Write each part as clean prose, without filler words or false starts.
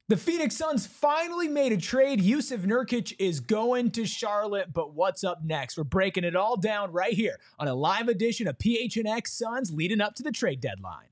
The Phoenix Suns finally made a trade. Jusuf Nurkic is going to Charlotte, but what's up next? We're breaking it all down right here on a live edition of PHNX Suns leading up to the trade deadline.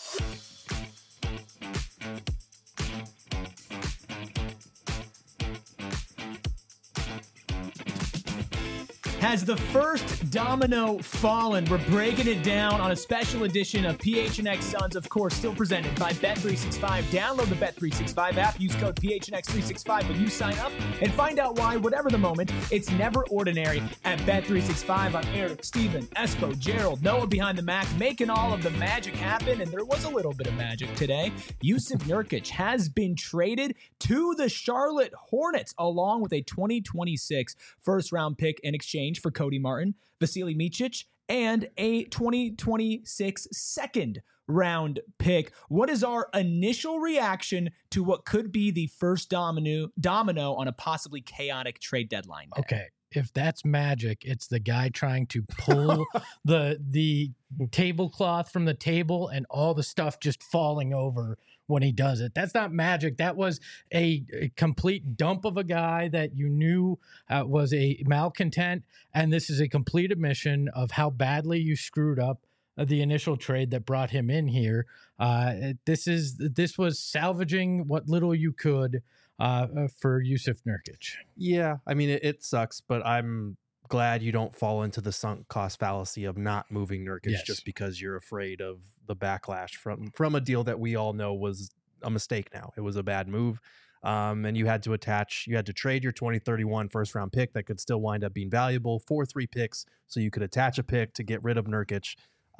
Has the first domino fallen? We're breaking it down on a special edition of PHNX Suns, of course, still presented by Bet365. Download the Bet365 app, use code PHNX365 when you sign up, and find out why, whatever the moment, it's never ordinary at Bet365. I'm Eric, Steven, Espo, Gerald, Noah behind the Mac, making all of the magic happen, and there was a little bit of magic today. Jusuf Nurkic has been traded to the Charlotte Hornets, along with a 2026 first-round pick in exchange for Cody Martin, Vasilije Micić, and a 2026 second-round pick. What is our initial reaction to what could be the first domino on a possibly chaotic trade deadline day? Okay, if that's magic, it's the guy trying to pull the tablecloth from the table and all the stuff just falling over when he does it. That's not magic. That was a complete dump of a guy that you knew was a malcontent, and this is a complete admission of how badly you screwed up the initial trade that brought him in here. This was salvaging what little you could for Jusuf Nurkic. Yeah, I mean, it sucks, but I'm glad you don't fall into the sunk cost fallacy of not moving Nurkic just because you're afraid of the backlash from a deal that we all know was a mistake now. It was a bad move. And you had to trade your 2031 first round pick that could still wind up being valuable for 3 picks. So you could attach a pick to get rid of Nurkic.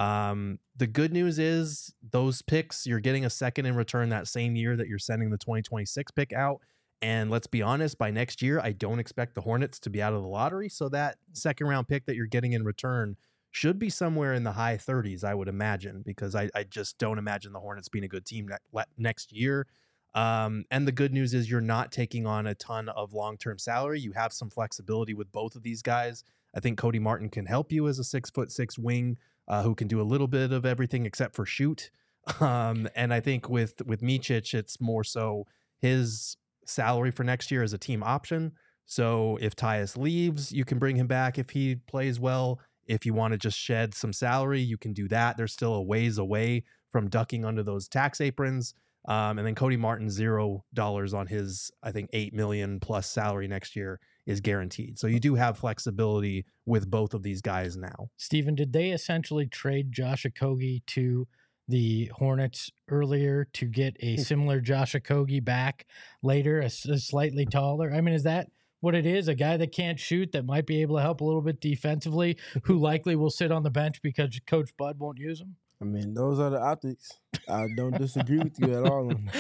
The good news is those picks, you're getting a second in return that same year that you're sending the 2026 pick out. And let's be honest, by next year, I don't expect the Hornets to be out of the lottery. So that second round pick that you're getting in return should be somewhere in the high 30s, I would imagine, because I just don't imagine the Hornets being a good team next year. And the good news is you're not taking on a ton of long-term salary. You have some flexibility with both of these guys. I think Cody Martin can help you as a 6'6" wing who can do a little bit of everything except for shoot. And I think with Micić, it's more so his salary for next year is a team option. So if Tyus leaves, you can bring him back if he plays well. If you want to just shed some salary, you can do that. They're still a ways away from ducking under those tax aprons. And then Cody Martin, $0 on his, I think, $8 million plus salary next year is guaranteed. So you do have flexibility with both of these guys now. Steven, did they essentially trade Josh Okogie to the Hornets earlier to get a similar Josh Okogie back later, a slightly taller? I mean, is that what it is? A guy that can't shoot that might be able to help a little bit defensively, who likely will sit on the bench because Coach Bud won't use him? I mean, those are the optics. I don't disagree with you at all on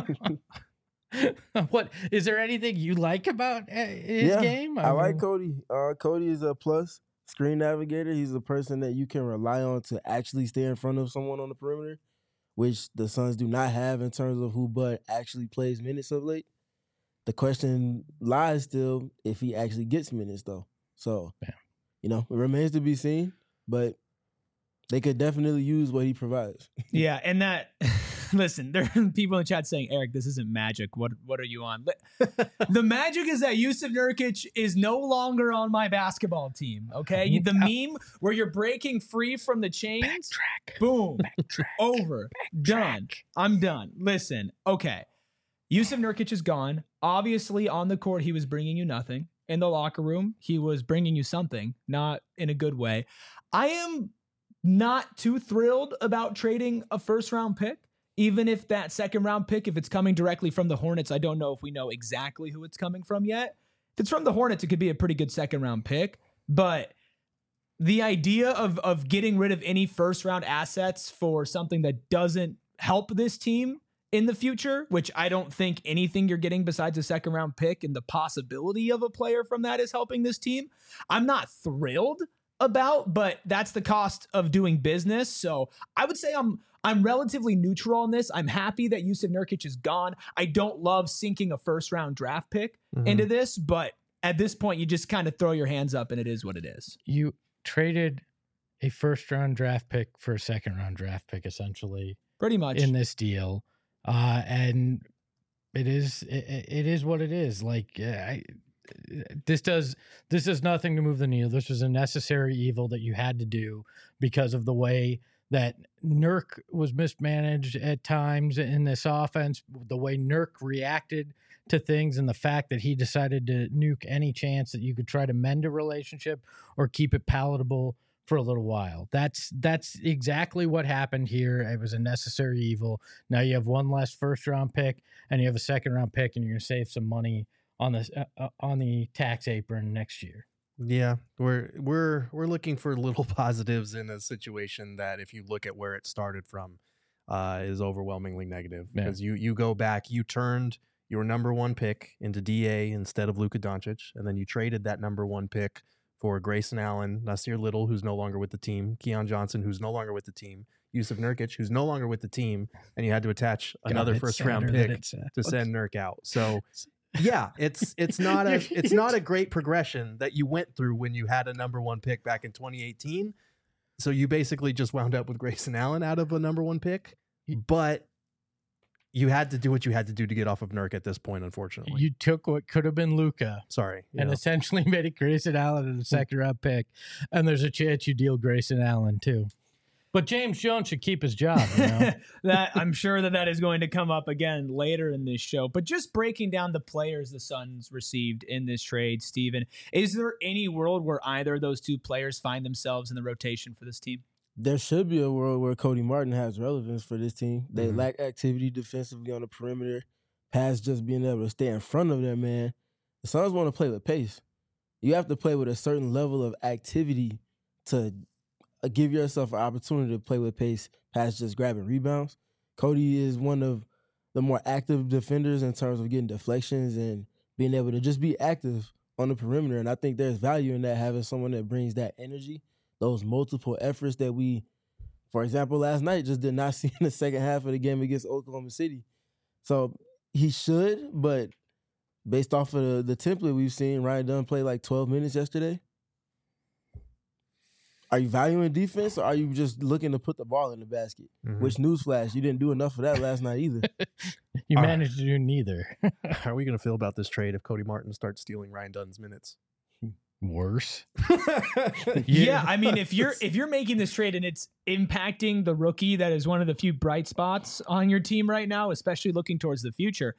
that. What is there anything you like about his game? I like Cody. Cody is a plus screen navigator. He's a person that you can rely on to actually stay in front of someone on the perimeter, which the Suns do not have in terms of who Bud actually plays minutes of late. The question lies still if he actually gets minutes, though. So, it remains to be seen, but they could definitely use what he provides. Yeah, and that... Listen, there are people in the chat saying, Eric, this isn't magic. What are you on? The magic is that Jusuf Nurkic is no longer on my basketball team, okay? The meme where you're breaking free from the chains, Backtrack. boom, Backtrack. over, done. I'm done. Listen, okay. Jusuf Nurkic is gone. Obviously, on the court, he was bringing you nothing. In the locker room, he was bringing you something, not in a good way. I am not too thrilled about trading a first-round pick. Even if that second round pick, if it's coming directly from the Hornets, I don't know if we know exactly who it's coming from yet. If it's from the Hornets, it could be a pretty good second round pick. But the idea of getting rid of any first round assets for something that doesn't help this team in the future, which I don't think anything you're getting besides a second round pick and the possibility of a player from that is helping this team, I'm not thrilled about, but that's the cost of doing business. So I would say I'm relatively neutral on this. I'm happy that Jusuf Nurkic is gone. I don't love sinking a first round draft pick into this, but at this point you just kind of throw your hands up and it is what it is. You traded a first round draft pick for a second round draft pick, essentially, pretty much in this deal. And It is what it is. Like this does nothing to move the needle. This was a necessary evil that you had to do because of the way that Nurk was mismanaged at times in this offense, the way Nurk reacted to things, and the fact that he decided to nuke any chance that you could try to mend a relationship or keep it palatable for a little while. That's exactly what happened here. It was a necessary evil. Now you have one less first round pick and you have a second round pick, and you're going to save some money on this on the tax apron next year. Yeah, we're looking for little positives in a situation that, if you look at where it started from, is overwhelmingly negative. Because you go back, you turned your number one pick into DA instead of Luka Doncic, and then you traded that number one pick for Grayson Allen, Nasir Little, who's no longer with the team, Keon Johnson, who's no longer with the team, Yusuf Nurkic, who's no longer with the team, and you had to attach another first round pick to send Nurk out. So yeah, it's not a great progression that you went through when you had a number one pick back in 2018. So you basically just wound up with Grayson Allen out of a number one pick, but you had to do what you had to do to get off of Nurk at this point, unfortunately. You took what could have been Luka. Sorry. And essentially made it Grayson Allen in a second round pick. And there's a chance you deal Grayson Allen too. But James Jones should keep his job. You know? That I'm sure that is going to come up again later in this show. But just breaking down the players the Suns received in this trade, Steven, is there any world where either of those two players find themselves in the rotation for this team? There should be a world where Cody Martin has relevance for this team. They lack activity defensively on the perimeter, past just being able to stay in front of their man. The Suns want to play with pace. You have to play with a certain level of activity to give yourself an opportunity to play with pace past just grabbing rebounds. Cody is one of the more active defenders in terms of getting deflections and being able to just be active on the perimeter. And I think there's value in that, having someone that brings that energy, those multiple efforts that we, for example, last night just did not see in the second half of the game against Oklahoma City. So he should, but based off of the template we've seen, Ryan Dunn played like 12 minutes yesterday. Are you valuing defense, or are you just looking to put the ball in the basket? Which, newsflash, you didn't do enough of that last night either. You managed to do neither. How are we going to feel about this trade if Cody Martin starts stealing Ryan Dunn's minutes? Worse. Yeah, I mean, if you're making this trade and it's impacting the rookie that is one of the few bright spots on your team right now, especially looking towards the future,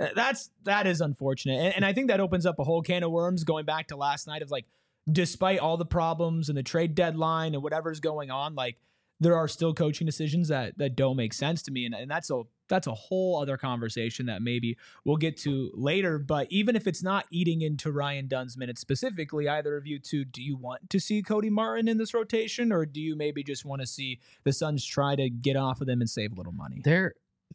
that is unfortunate. And I think that opens up a whole can of worms going back to last night of like, despite all the problems and the trade deadline and whatever's going on, like there are still coaching decisions that don't make sense to me. And that's a whole other conversation that maybe we'll get to later. But even if it's not eating into Ryan Dunn's minutes specifically, either of you two, do you want to see Cody Martin in this rotation, or do you maybe just want to see the Suns try to get off of them and save a little money? They're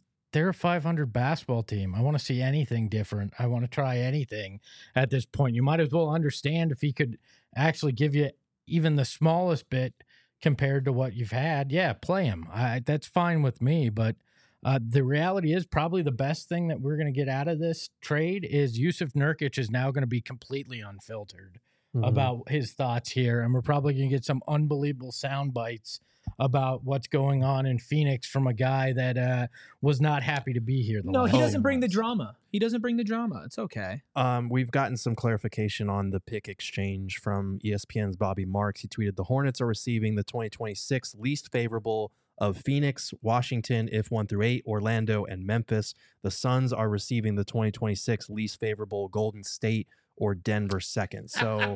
a 500 basketball team. I want to see anything different. I want to try anything at this point. You might as well understand if he could actually give you even the smallest bit compared to what you've had. Yeah, play him. That's fine with me. But the reality is probably the best thing that we're going to get out of this trade is Yusuf Nurkic is now going to be completely unfiltered about his thoughts here. And we're probably going to get some unbelievable sound bites about what's going on in Phoenix from a guy that was not happy to be here. No, he doesn't bring the drama. He doesn't bring the drama. It's okay. We've gotten some clarification on the pick exchange from ESPN's Bobby Marks. He tweeted, the Hornets are receiving the 2026 least favorable of Phoenix, Washington, if 1 through 8, Orlando, and Memphis. The Suns are receiving the 2026 least favorable Golden State or Denver second. So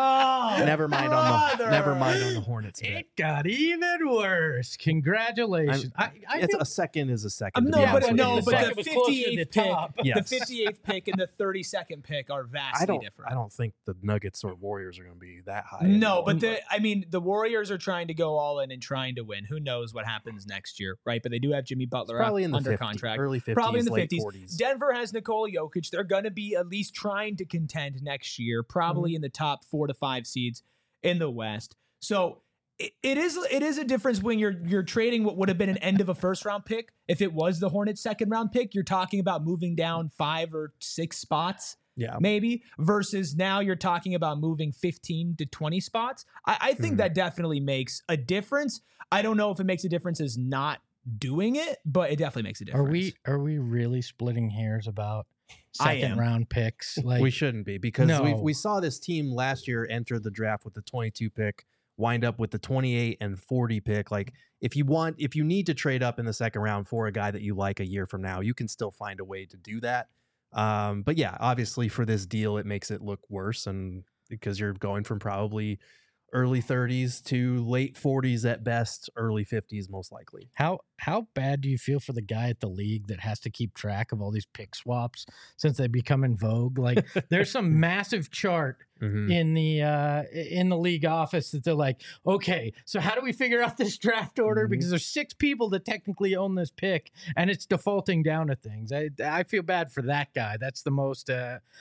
never mind on the Hornets. It got even worse. Congratulations. A second is a second. But the 58th pick, the 58th pick and the 32nd pick are vastly different. I don't think the Nuggets or Warriors are going to be that high. No, but the Warriors are trying to go all in and trying to win. Who knows what happens next year, right? But they do have Jimmy Butler probably in the under 50s, contract. Early 50s, probably in the late 50s. 40s. Denver has Nikola Jokic. They're going to be at least trying to contend next year, probably in the top 4 to 5 seeds in the West. So it is a difference when you're trading what would have been an end of a first round pick. If it was the Hornets' second round pick, you're talking about moving down 5 or 6 spots. Yeah, maybe, versus now you're talking about moving 15 to 20 spots. I think that definitely makes a difference. I don't know if it makes a difference as not doing it, but it definitely makes a difference. Are we really splitting hairs about I am. second round picks? Like, we shouldn't be, because No. we saw this team last year enter the draft with the 22 pick, wind up with the 28 and 40 pick. Like, if you need to trade up in the second round for a guy that you like a year from now, you can still find a way to do that. But yeah, obviously for this deal, it makes it look worse, and because you're going from probably early 30s to late 40s at best, early 50s most likely. how bad do you feel for the guy at the league that has to keep track of all these pick swaps since they become in vogue? Like, there's some massive chart in the league office that they're like, okay, so how do we figure out this draft order? Because there's 6 people that technically own this pick, and it's defaulting down to things. I feel bad for that guy. That's the most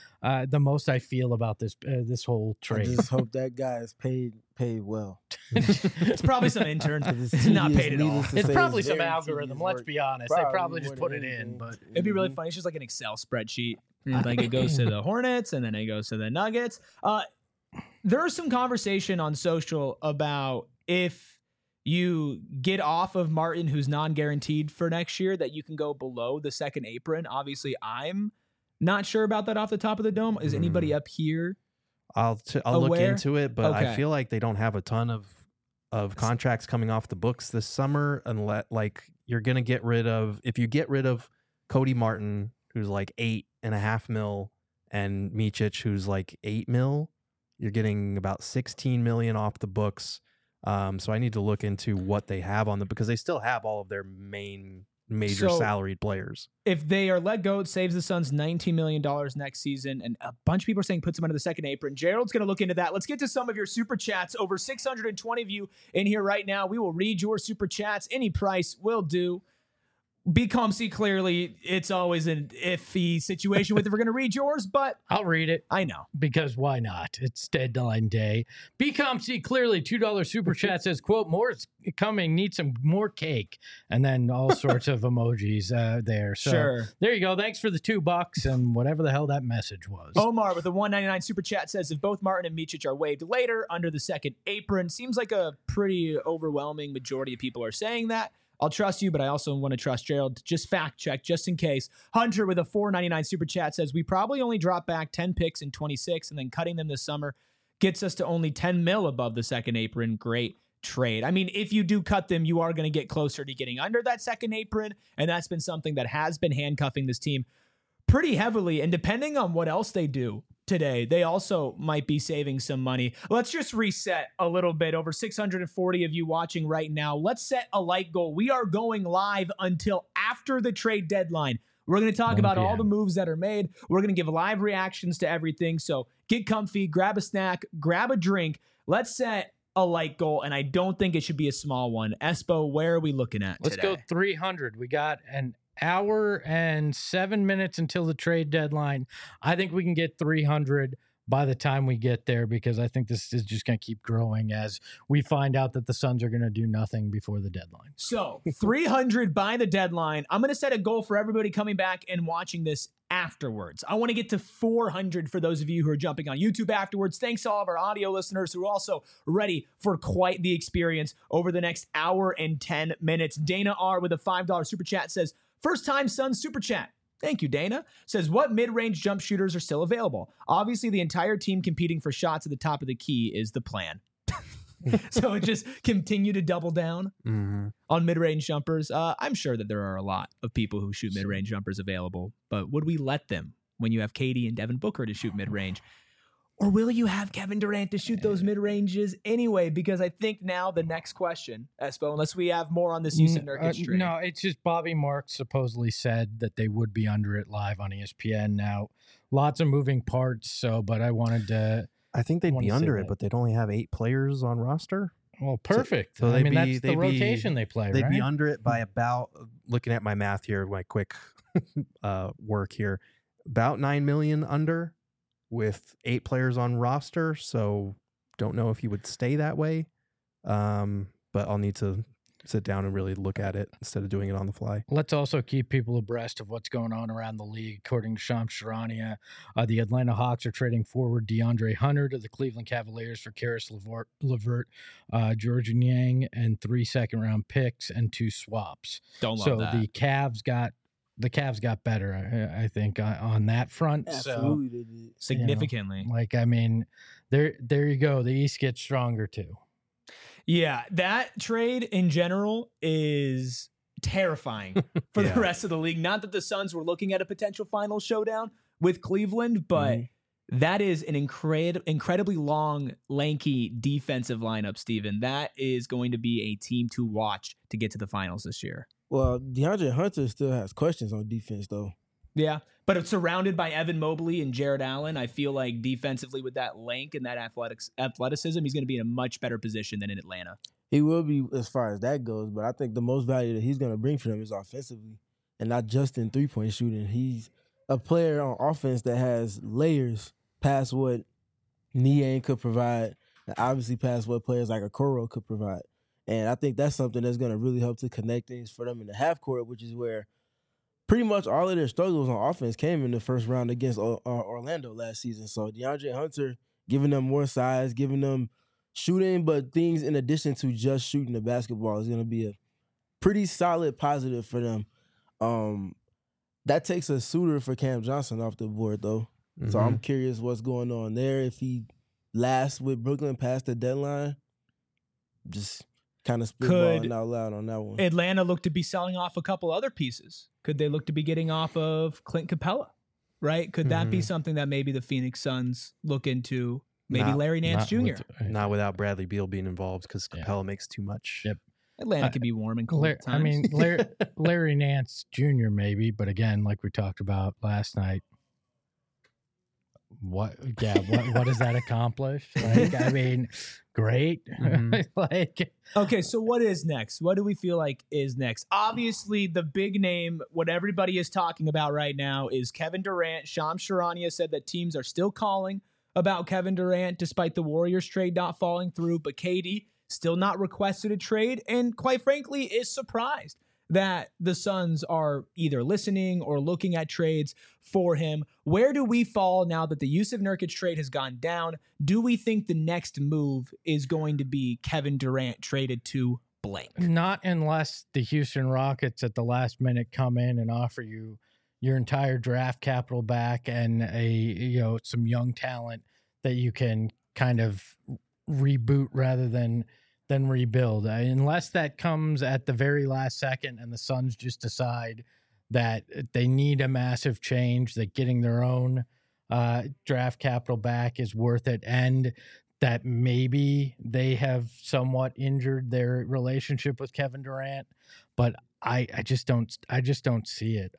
I feel about this whole I trade. just hope that guy is paid well. It's probably some intern Because that's not paid at all. It's probably some algorithm. Let's be honest. They probably just more put than it in, anything. but It'd be really funny. It's just like an Excel spreadsheet. Like, it goes to the Hornets and then it goes to the Nuggets. There's some conversation on social about if you get off of Martin, who's non-guaranteed for next year, that you can go below the second apron. Obviously, I'm not sure about that off the top of the dome. Is anybody up here? I'll look Aware? into it, but Okay. I feel like they don't have a ton of contracts coming off the books this summer, unless, like, you're gonna get rid of, if you get rid of Cody Martin, who's like $8.5 million, and Micic, who's like $8 million, you're getting about $16 million off the books. So I need to look into what they have on them, because they still have all of their major salaried players. If they are let go, it saves the Suns $19 million next season. And a bunch of people are saying puts them under the second apron. Gerald's going to look into that. Let's get to some of your super chats. Over 620 of you in here right now. We will read your super chats. Any price will do. BComC, clearly, it's always an iffy situation with if we're going to read yours, but I'll read it. I know. Because why not? It's deadline day. BComC, clearly $2 super chat says, quote, more is coming, need some more cake. And then all sorts of emojis there. So Sure. there you go. Thanks for the $2 and whatever the hell that message was. Omar with a $1.99 super chat says, if both Martin and Micic are waived later under the second apron, seems like a pretty overwhelming majority of people are saying that. I'll trust you, but I also want to trust Gerald. Just fact check, just in case. Hunter with a $4.99 super chat says, we probably only drop back 10 picks in 26, and then cutting them this summer gets us to only 10 mil above the second apron. Great trade. I mean, if you do cut them, you are going to get closer to getting under that second apron, and that's been something that has been handcuffing this team pretty heavily. And depending on what else they do today, they also might be saving some money. Let's just reset a little bit. Over 640 of you watching right now. Let's set a like goal. We are going live until after the trade deadline. We're going to talk 1 about all p.m. the moves that are made. We're going to give live reactions to everything. So get comfy, grab a snack, grab a drink. Let's set a like goal, and I don't think it should be a small one. Espo, where are we looking at Let's today? go 300. We got an hour and 7 minutes until the trade deadline. I think we can get 300 by the time we get there, because I think this is just going to keep growing as we find out that the Suns are going to do nothing before the deadline. So 300 by the deadline. I'm going to set a goal for everybody coming back and watching this afterwards. I want to get to 400 for those of you who are jumping on YouTube afterwards. Thanks to all of our audio listeners who are also ready for quite the experience over the next hour and 10 minutes. Dana R with a $5 super chat says, first time Suns super chat. Thank you, Dana. Says, what mid-range jump shooters are still available? Obviously, the entire team competing for shots at the top of the key is the plan. So it just continue to double down on mid-range jumpers. I'm sure that there are a lot of people who shoot mid-range jumpers available, but would we let them when you have KD and Devin Booker to shoot mid-range? Or will you have Kevin Durant to shoot those mid-ranges anyway? Because I think now the next question, Espo, unless we have more on this Jusuf Nurkic trade. No, it's just Bobby Marks supposedly said that they would be under it live on ESPN. Now, lots of moving parts, but I wanted to... I think they'd wanted be to say under it, that. but they'd only have 8 players on roster. Well, perfect. So I they'd mean, be- that's the they'd be- rotation they play, They'd right? be under it by about, looking at my math here, my quick work here, about 9 million under, with 8 players on roster. So don't know if you would stay that way. But I'll need to sit down and really look at it instead of doing it on the fly. Let's also keep people abreast of what's going on around the league. According to Shams Charania, the Atlanta Hawks are trading forward DeAndre Hunter to the Cleveland Cavaliers for Karis LeVert, George Niang, and 3 second-round picks and 2 swaps. Don't love so that. the Cavs got better, I think, on that front. Absolutely, they did. Significantly. Like, I mean, there you go. The East gets stronger too. Yeah, that trade in general is terrifying for the rest of the league. Not that the Suns were looking at a potential final showdown with Cleveland, but that is an incredibly long, lanky defensive lineup, Steven. That is going to be a team to watch to get to the finals this year. Well, DeAndre Hunter still has questions on defense, though. Yeah, but it's surrounded by Evan Mobley and Jared Allen. I feel like defensively with that length and that athleticism, he's going to be in a much better position than in Atlanta. He will be as far as that goes, but I think the most value that he's going to bring for them is offensively and not just in three-point shooting. He's a player on offense that has layers past what Niang could provide and obviously past what players like Okoro could provide. And I think that's something that's going to really help to connect things for them in the half court, which is where pretty much all of their struggles on offense came in the first round against Orlando last season. So DeAndre Hunter giving them more size, giving them shooting, but things in addition to just shooting the basketball is going to be a pretty solid positive for them. That takes a suitor for Cam Johnson off the board, though. Mm-hmm. So I'm curious what's going on there. If he lasts with Brooklyn past the deadline, just kind of spitballing out loud on that one. Atlanta look to be selling off a couple other pieces. Could they look to be getting off of Clint Capella, right? Could that be something that maybe the Phoenix Suns look into? Maybe Larry Nance Jr. Not without Bradley Beal being involved because Capella makes too much. Yep. Atlanta could be warm and cold at times. I mean, Larry Nance Jr. maybe, but again, like we talked about last night, what does that accomplish? Like, I mean, great. Okay, so what is next? What do we feel like is next? Obviously, the big name, what everybody is talking about right now is Kevin Durant. Shams Charania said that teams are still calling about Kevin Durant despite the Warriors trade not falling through, but KD still not requested a trade and quite frankly is surprised that the Suns are either listening or looking at trades for him. Where do we fall now that the Jusuf Nurkic trade has gone down? Do we think the next move is going to be Kevin Durant traded to blank? Not unless the Houston Rockets at the last minute come in and offer you your entire draft capital back and some young talent that you can kind of reboot rather than rebuild. Unless that comes at the very last second and the Suns just decide that they need a massive change, that getting their own draft capital back is worth it, and that maybe they have somewhat injured their relationship with Kevin Durant. But I just don't see it.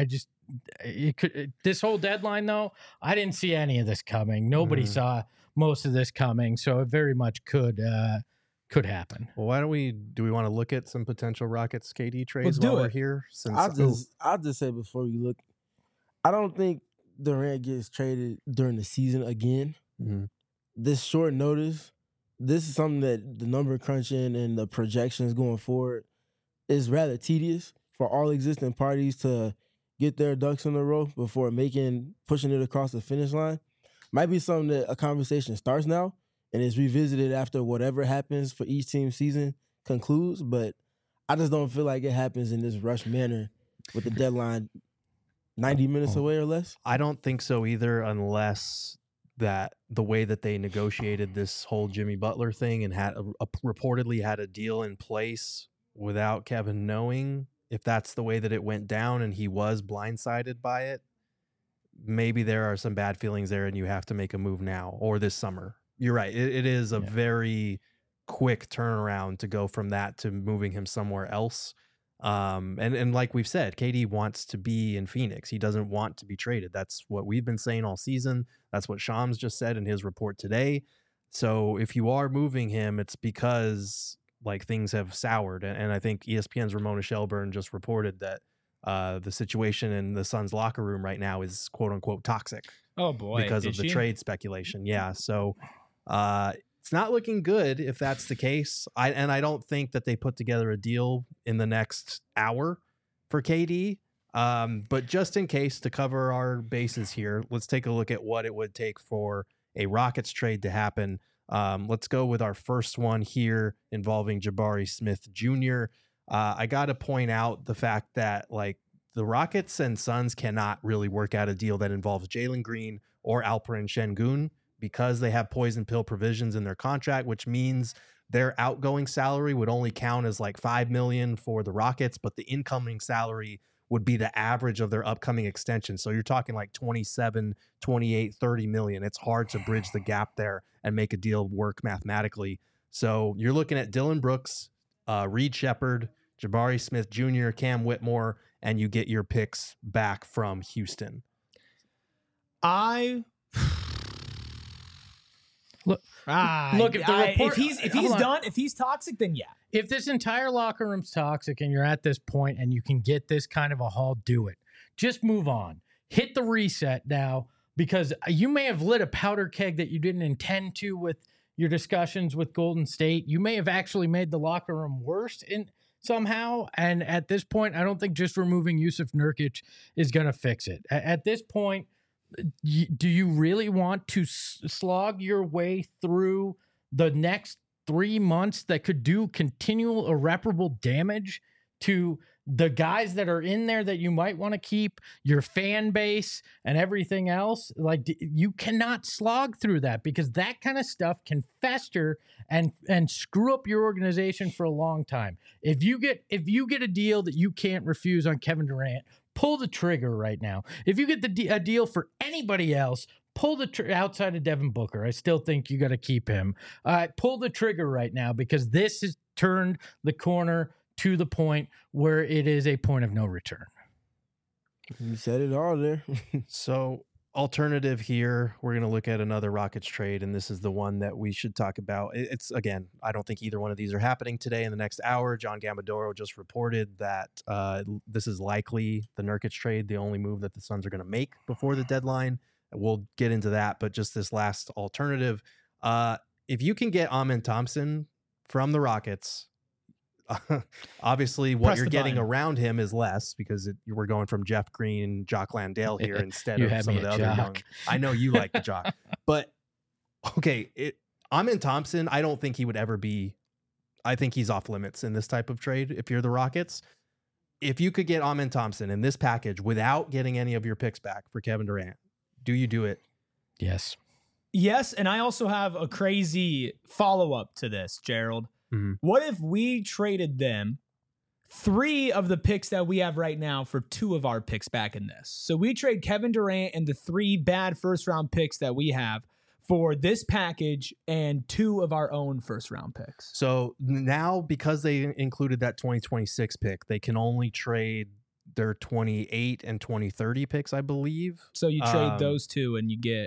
This whole deadline though, I didn't see any of this coming. Nobody saw most of this coming, so it very much could happen. Well, why don't we want to look at some potential Rockets KD trades while we're here? I'll just say before we look, I don't think Durant gets traded during the season again. Mm-hmm. This short notice, this is something that the number crunching and the projections going forward is rather tedious for all existing parties to get their ducks in a row before pushing it across the finish line. Might be something that a conversation starts now and is revisited after whatever happens for each team's season concludes, but I just don't feel like it happens in this rush manner with the deadline 90 minutes away or less. I don't think so either, unless that the way that they negotiated this whole Jimmy Butler thing and had reportedly had a deal in place without Kevin knowing, if that's the way that it went down and he was blindsided by it, maybe there are some bad feelings there and you have to make a move now or this summer. You're right. It is a very quick turnaround to go from that to moving him somewhere else. And like we've said, KD wants to be in Phoenix. He doesn't want to be traded. That's what we've been saying all season. That's what Shams just said in his report today. So if you are moving him, it's because like things have soured. And I think ESPN's Ramona Shelburne just reported that the situation in the Suns locker room right now is quote unquote toxic. Oh boy. Because of the trade speculation. Yeah. So it's not looking good if that's the case. I don't think that they put together a deal in the next hour for KD. But just in case, to cover our bases here, let's take a look at what it would take for a Rockets trade to happen. Let's go with our first one here involving Jabari Smith Jr. I got to point out the fact that like the Rockets and Suns cannot really work out a deal that involves Jalen Green or Alperen Şengün because they have poison pill provisions in their contract, which means their outgoing salary would only count as like $5 million for the Rockets, but the incoming salary would be the average of their upcoming extension. So you're talking like 27, 28, 30 million. It's hard to bridge the gap there and make a deal work mathematically. So you're looking at Dylan Brooks, Reed Shepherd, Jabari Smith Jr., Cam Whitmore, and you get your picks back from Houston. Look, if he's toxic, then yeah. If this entire locker room's toxic and you're at this point and you can get this kind of a haul, do it. Just move on. Hit the reset now, because you may have lit a powder keg that you didn't intend to with your discussions with Golden State. You may have actually made the locker room worse somehow. And at this point, I don't think just removing Jusuf Nurkic is going to fix it. At this point, do you really want to slog your way through the next 3 months that could do continual irreparable damage to the guys that are in there that you might want to keep, your fan base and everything else? Like, you cannot slog through that, because that kind of stuff can fester and screw up your organization for a long time. If you get a deal that you can't refuse on Kevin Durant, pull the trigger right now. If you get a deal for anybody else, pull the outside of Devin Booker. I still think you got to keep him. Pull the trigger right now, because this has turned the corner to the point where it is a point of no return. You said it all there. So, alternative here, we're going to look at another Rockets trade, and this is the one that we should talk about. It's, again, I don't think either one of these are happening today in the next hour. John Gambadoro just reported that this is likely the Nurkic trade, the only move that the Suns are going to make before the deadline. We'll get into that, but just this last alternative. If you can get Amen Thompson from the Rockets, obviously what you're getting around him is less, because we're going from Jeff Green, Jock Landale here instead of some of the other young. I know you like the Jock, but okay, Amen Thompson, I don't think he would ever be. I think he's off limits in this type of trade. If you're the Rockets, if you could get Amen Thompson in this package without getting any of your picks back for Kevin Durant, do you do it? Yes. Yes, and I also have a crazy follow-up to this, Gerald. Mm-hmm. What if we traded them 3 of the picks that we have right now for 2 of our picks back in this? So we trade Kevin Durant and the 3 bad first-round picks that we have for this package and 2 of our own first-round picks. So now, because they included that 2026 pick, they can only trade their 28 and 2030 picks, I believe. So you trade those 2 and you get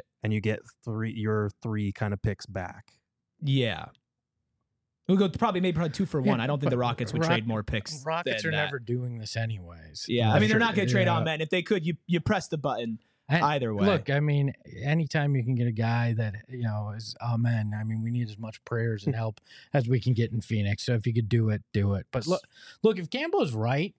your 3 kind of picks back. Yeah. We'll go probably 2 for 1. I don't think the Rockets would trade more picks. Rockets are never doing this anyways. Yeah, I mean, they're not going to trade Amen. If they could, you press the button either way. Look, I mean, anytime you can get a guy that, is Amen, I mean, we need as much prayers and help as we can get in Phoenix. So if you could do it, do it. But look, if Gambo's right,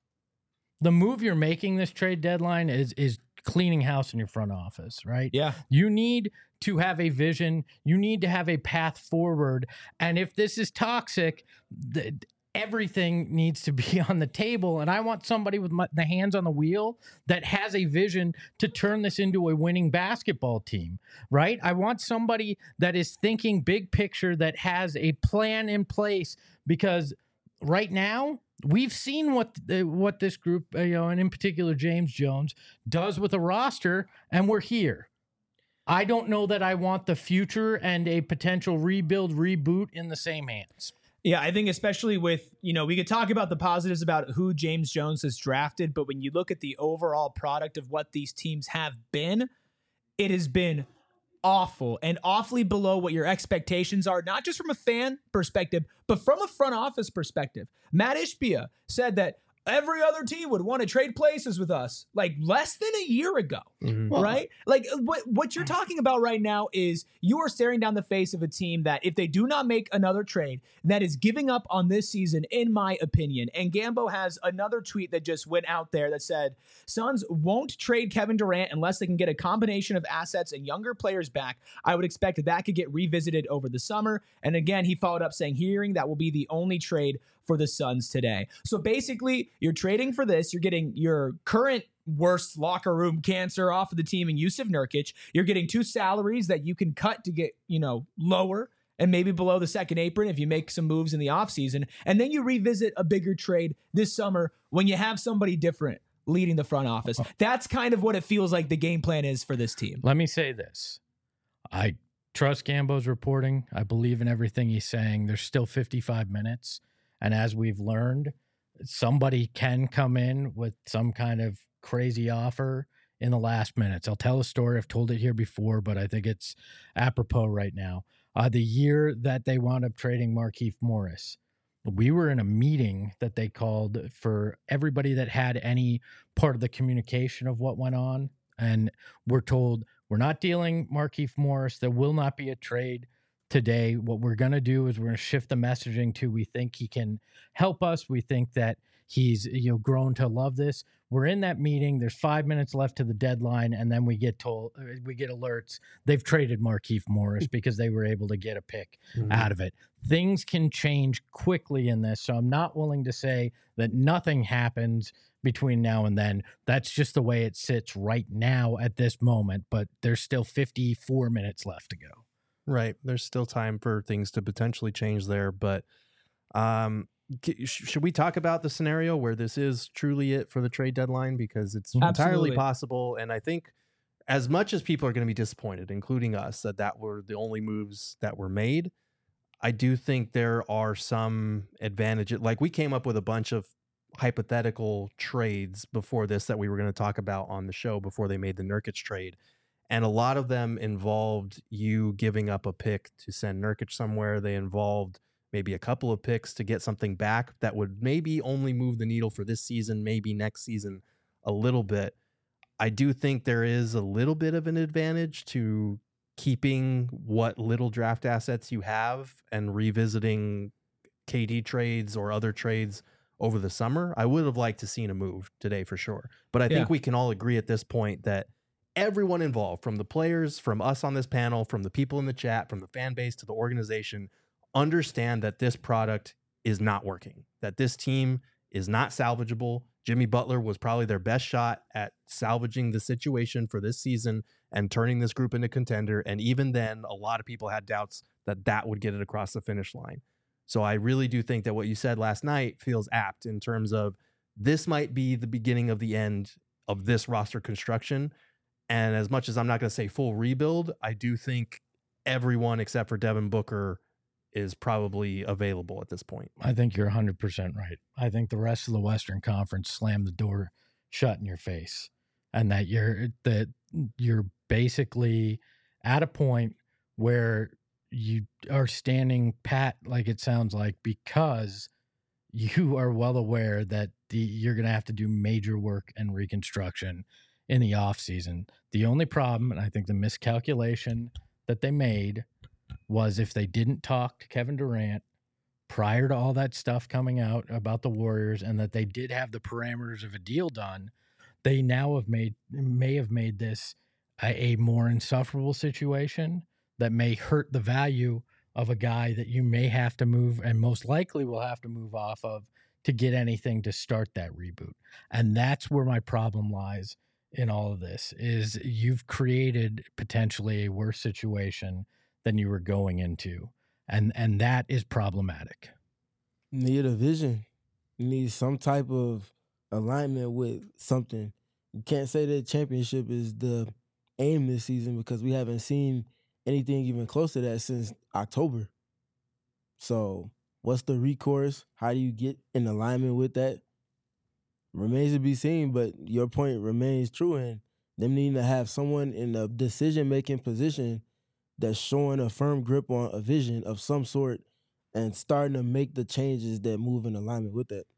the move you're making this trade deadline is cleaning house in your front office, right? Yeah. You need to have a vision. You need to have a path forward. And if this is toxic, everything needs to be on the table. And I want somebody with the hands on the wheel that has a vision to turn this into a winning basketball team, right? I want somebody that is thinking big picture, that has a plan in place, because right now, we've seen what this group, and in particular James Jones, does with a roster, and we're here. I don't know that I want the future and a potential reboot in the same hands. Yeah, I think especially with, we could talk about the positives about who James Jones has drafted, but when you look at the overall product of what these teams have been, it has been awful and awfully below what your expectations are, not just from a fan perspective, but from a front office perspective. Matt Ishbia said that every other team would want to trade places with us like less than a year ago, right? Like what you're talking about right now is you are staring down the face of a team that if they do not make another trade, that is giving up on this season, in my opinion. And Gambo has another tweet that just went out there that said, Suns won't trade Kevin Durant unless they can get a combination of assets and younger players back. I would expect that could get revisited over the summer. And again, he followed up saying, hearing that will be the only trade for the Suns today. So basically, you're trading for this. You're getting your current worst locker room cancer off of the team in Jusuf Nurkic. You're getting 2 salaries that you can cut to get, lower and maybe below the second apron if you make some moves in the offseason. And then you revisit a bigger trade this summer when you have somebody different leading the front office. That's kind of what it feels like the game plan is for this team. Let me say this. I trust Gambo's reporting. I believe in everything he's saying. There's still 55 minutes. And as we've learned, somebody can come in with some kind of crazy offer in the last minutes. I'll tell a story. I've told it here before, but I think it's apropos right now. The year that they wound up trading Markieff Morris, we were in a meeting that they called for everybody that had any part of the communication of what went on. And we're told, we're not dealing Markieff Morris. There will not be a trade today. What we're going to do is we're going to shift the messaging to, we think he can help us. We think that he's grown to love this. We're in that meeting. There's 5 minutes left to the deadline, and then we get alerts. They've traded Markieff Morris because they were able to get a pick out of it. Things can change quickly in this, so I'm not willing to say that nothing happens between now and then. That's just the way it sits right now at this moment, but there's still 54 minutes left to go. Right. There's still time for things to potentially change there. But should we talk about the scenario where this is truly it for the trade deadline? Because it's entirely possible. And I think as much as people are going to be disappointed, including us, that were the only moves that were made, I do think there are some advantages. Like, we came up with a bunch of hypothetical trades before this that we were going to talk about on the show before they made the Nurkic trade. And a lot of them involved you giving up a pick to send Nurkic somewhere. They involved maybe a couple of picks to get something back that would maybe only move the needle for this season, maybe next season a little bit. I do think there is a little bit of an advantage to keeping what little draft assets you have and revisiting KD trades or other trades over the summer. I would have liked to seen a move today for sure. But I think we can all agree at this point that everyone involved, from the players, from us on this panel, from the people in the chat, from the fan base to the organization, understand that this product is not working, that this team is not salvageable. Jimmy Butler was probably their best shot at salvaging the situation for this season and turning this group into contender. And even then, a lot of people had doubts that would get it across the finish line. So I really do think that what you said last night feels apt in terms of this might be the beginning of the end of this roster construction. And as much as I'm not going to say full rebuild, I do think everyone except for Devin Booker is probably available at this point. I think you're 100% right. I think the rest of the Western Conference slammed the door shut in your face, and that you're basically at a point where you are standing pat, like it sounds like, because you are well aware that you're going to have to do major work and reconstruction in the offseason. The only problem, and I think the miscalculation that they made, was if they didn't talk to Kevin Durant prior to all that stuff coming out about the Warriors, and that they did have the parameters of a deal done, they now may have made this a more insufferable situation that may hurt the value of a guy that you may have to move, and most likely will have to move off of, to get anything to start that reboot. And that's where my problem lies in all of this, is you've created potentially a worse situation than you were going into. And that is problematic. You need a vision. You need some type of alignment with something. You can't say that championship is the aim this season, because we haven't seen anything even close to that since October. So what's the recourse? How do you get in alignment with that? Remains to be seen, but your point remains true, and them needing to have someone in a decision-making position that's showing a firm grip on a vision of some sort and starting to make the changes that move in alignment with that.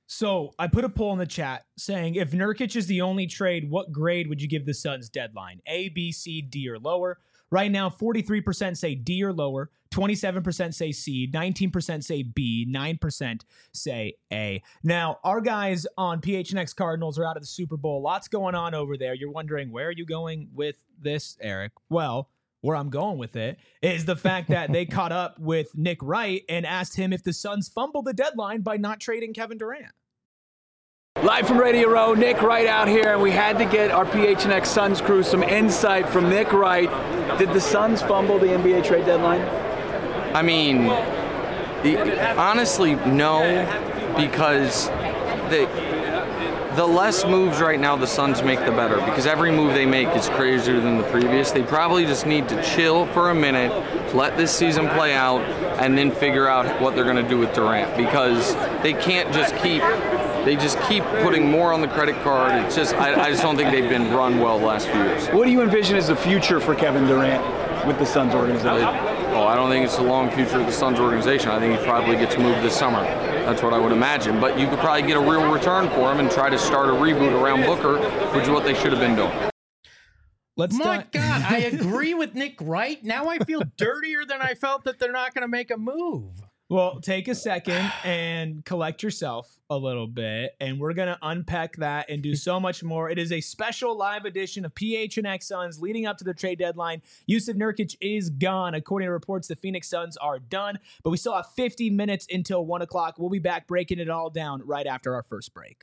So I put a poll in the chat saying, if Nurkic is the only trade, what grade would you give the Suns deadline? A, B, C, D, or lower? Right now, 43% say D or lower, 27% say C, 19% say B, 9% say A. Now, our guys on PHNX Cardinals are out of the Super Bowl. Lots going on over there. You're wondering, where are you going with this, Eric? Well, where I'm going with it is the fact that they caught up with Nick Wright and asked him if the Suns fumbled the deadline by not trading Kevin Durant. Live from Radio Row, Nick Wright out here, and we had to get our PHNX Suns crew some insight from Nick Wright. Did the Suns fumble the NBA trade deadline? I mean, honestly, no, because the less moves right now the Suns make, the better, because every move they make is crazier than the previous. They probably just need to chill for a minute, let this season play out, and then figure out what they're going to do with Durant, because they can't just keep putting more on the credit card. It's just, I just don't think they've been run well the last few years. What do you envision as the future for Kevin Durant with the Suns organization? I don't think it's a long future of the Suns organization. I think he probably gets moved this summer. That's what I would imagine. But you could probably get a real return for him and try to start a reboot around Booker, which is what they should have been doing. My God, I agree with Nick Wright. Now I feel dirtier than I felt that they're not going to make a move. Well, take a second and collect yourself a little bit, and we're going to unpack that and do so much more. It is a special live edition of PHNX Suns leading up to the trade deadline. Jusuf Nurkic is gone. According to reports, the Phoenix Suns are done, but we still have 50 minutes until 1 o'clock. We'll be back breaking it all down right after our first break.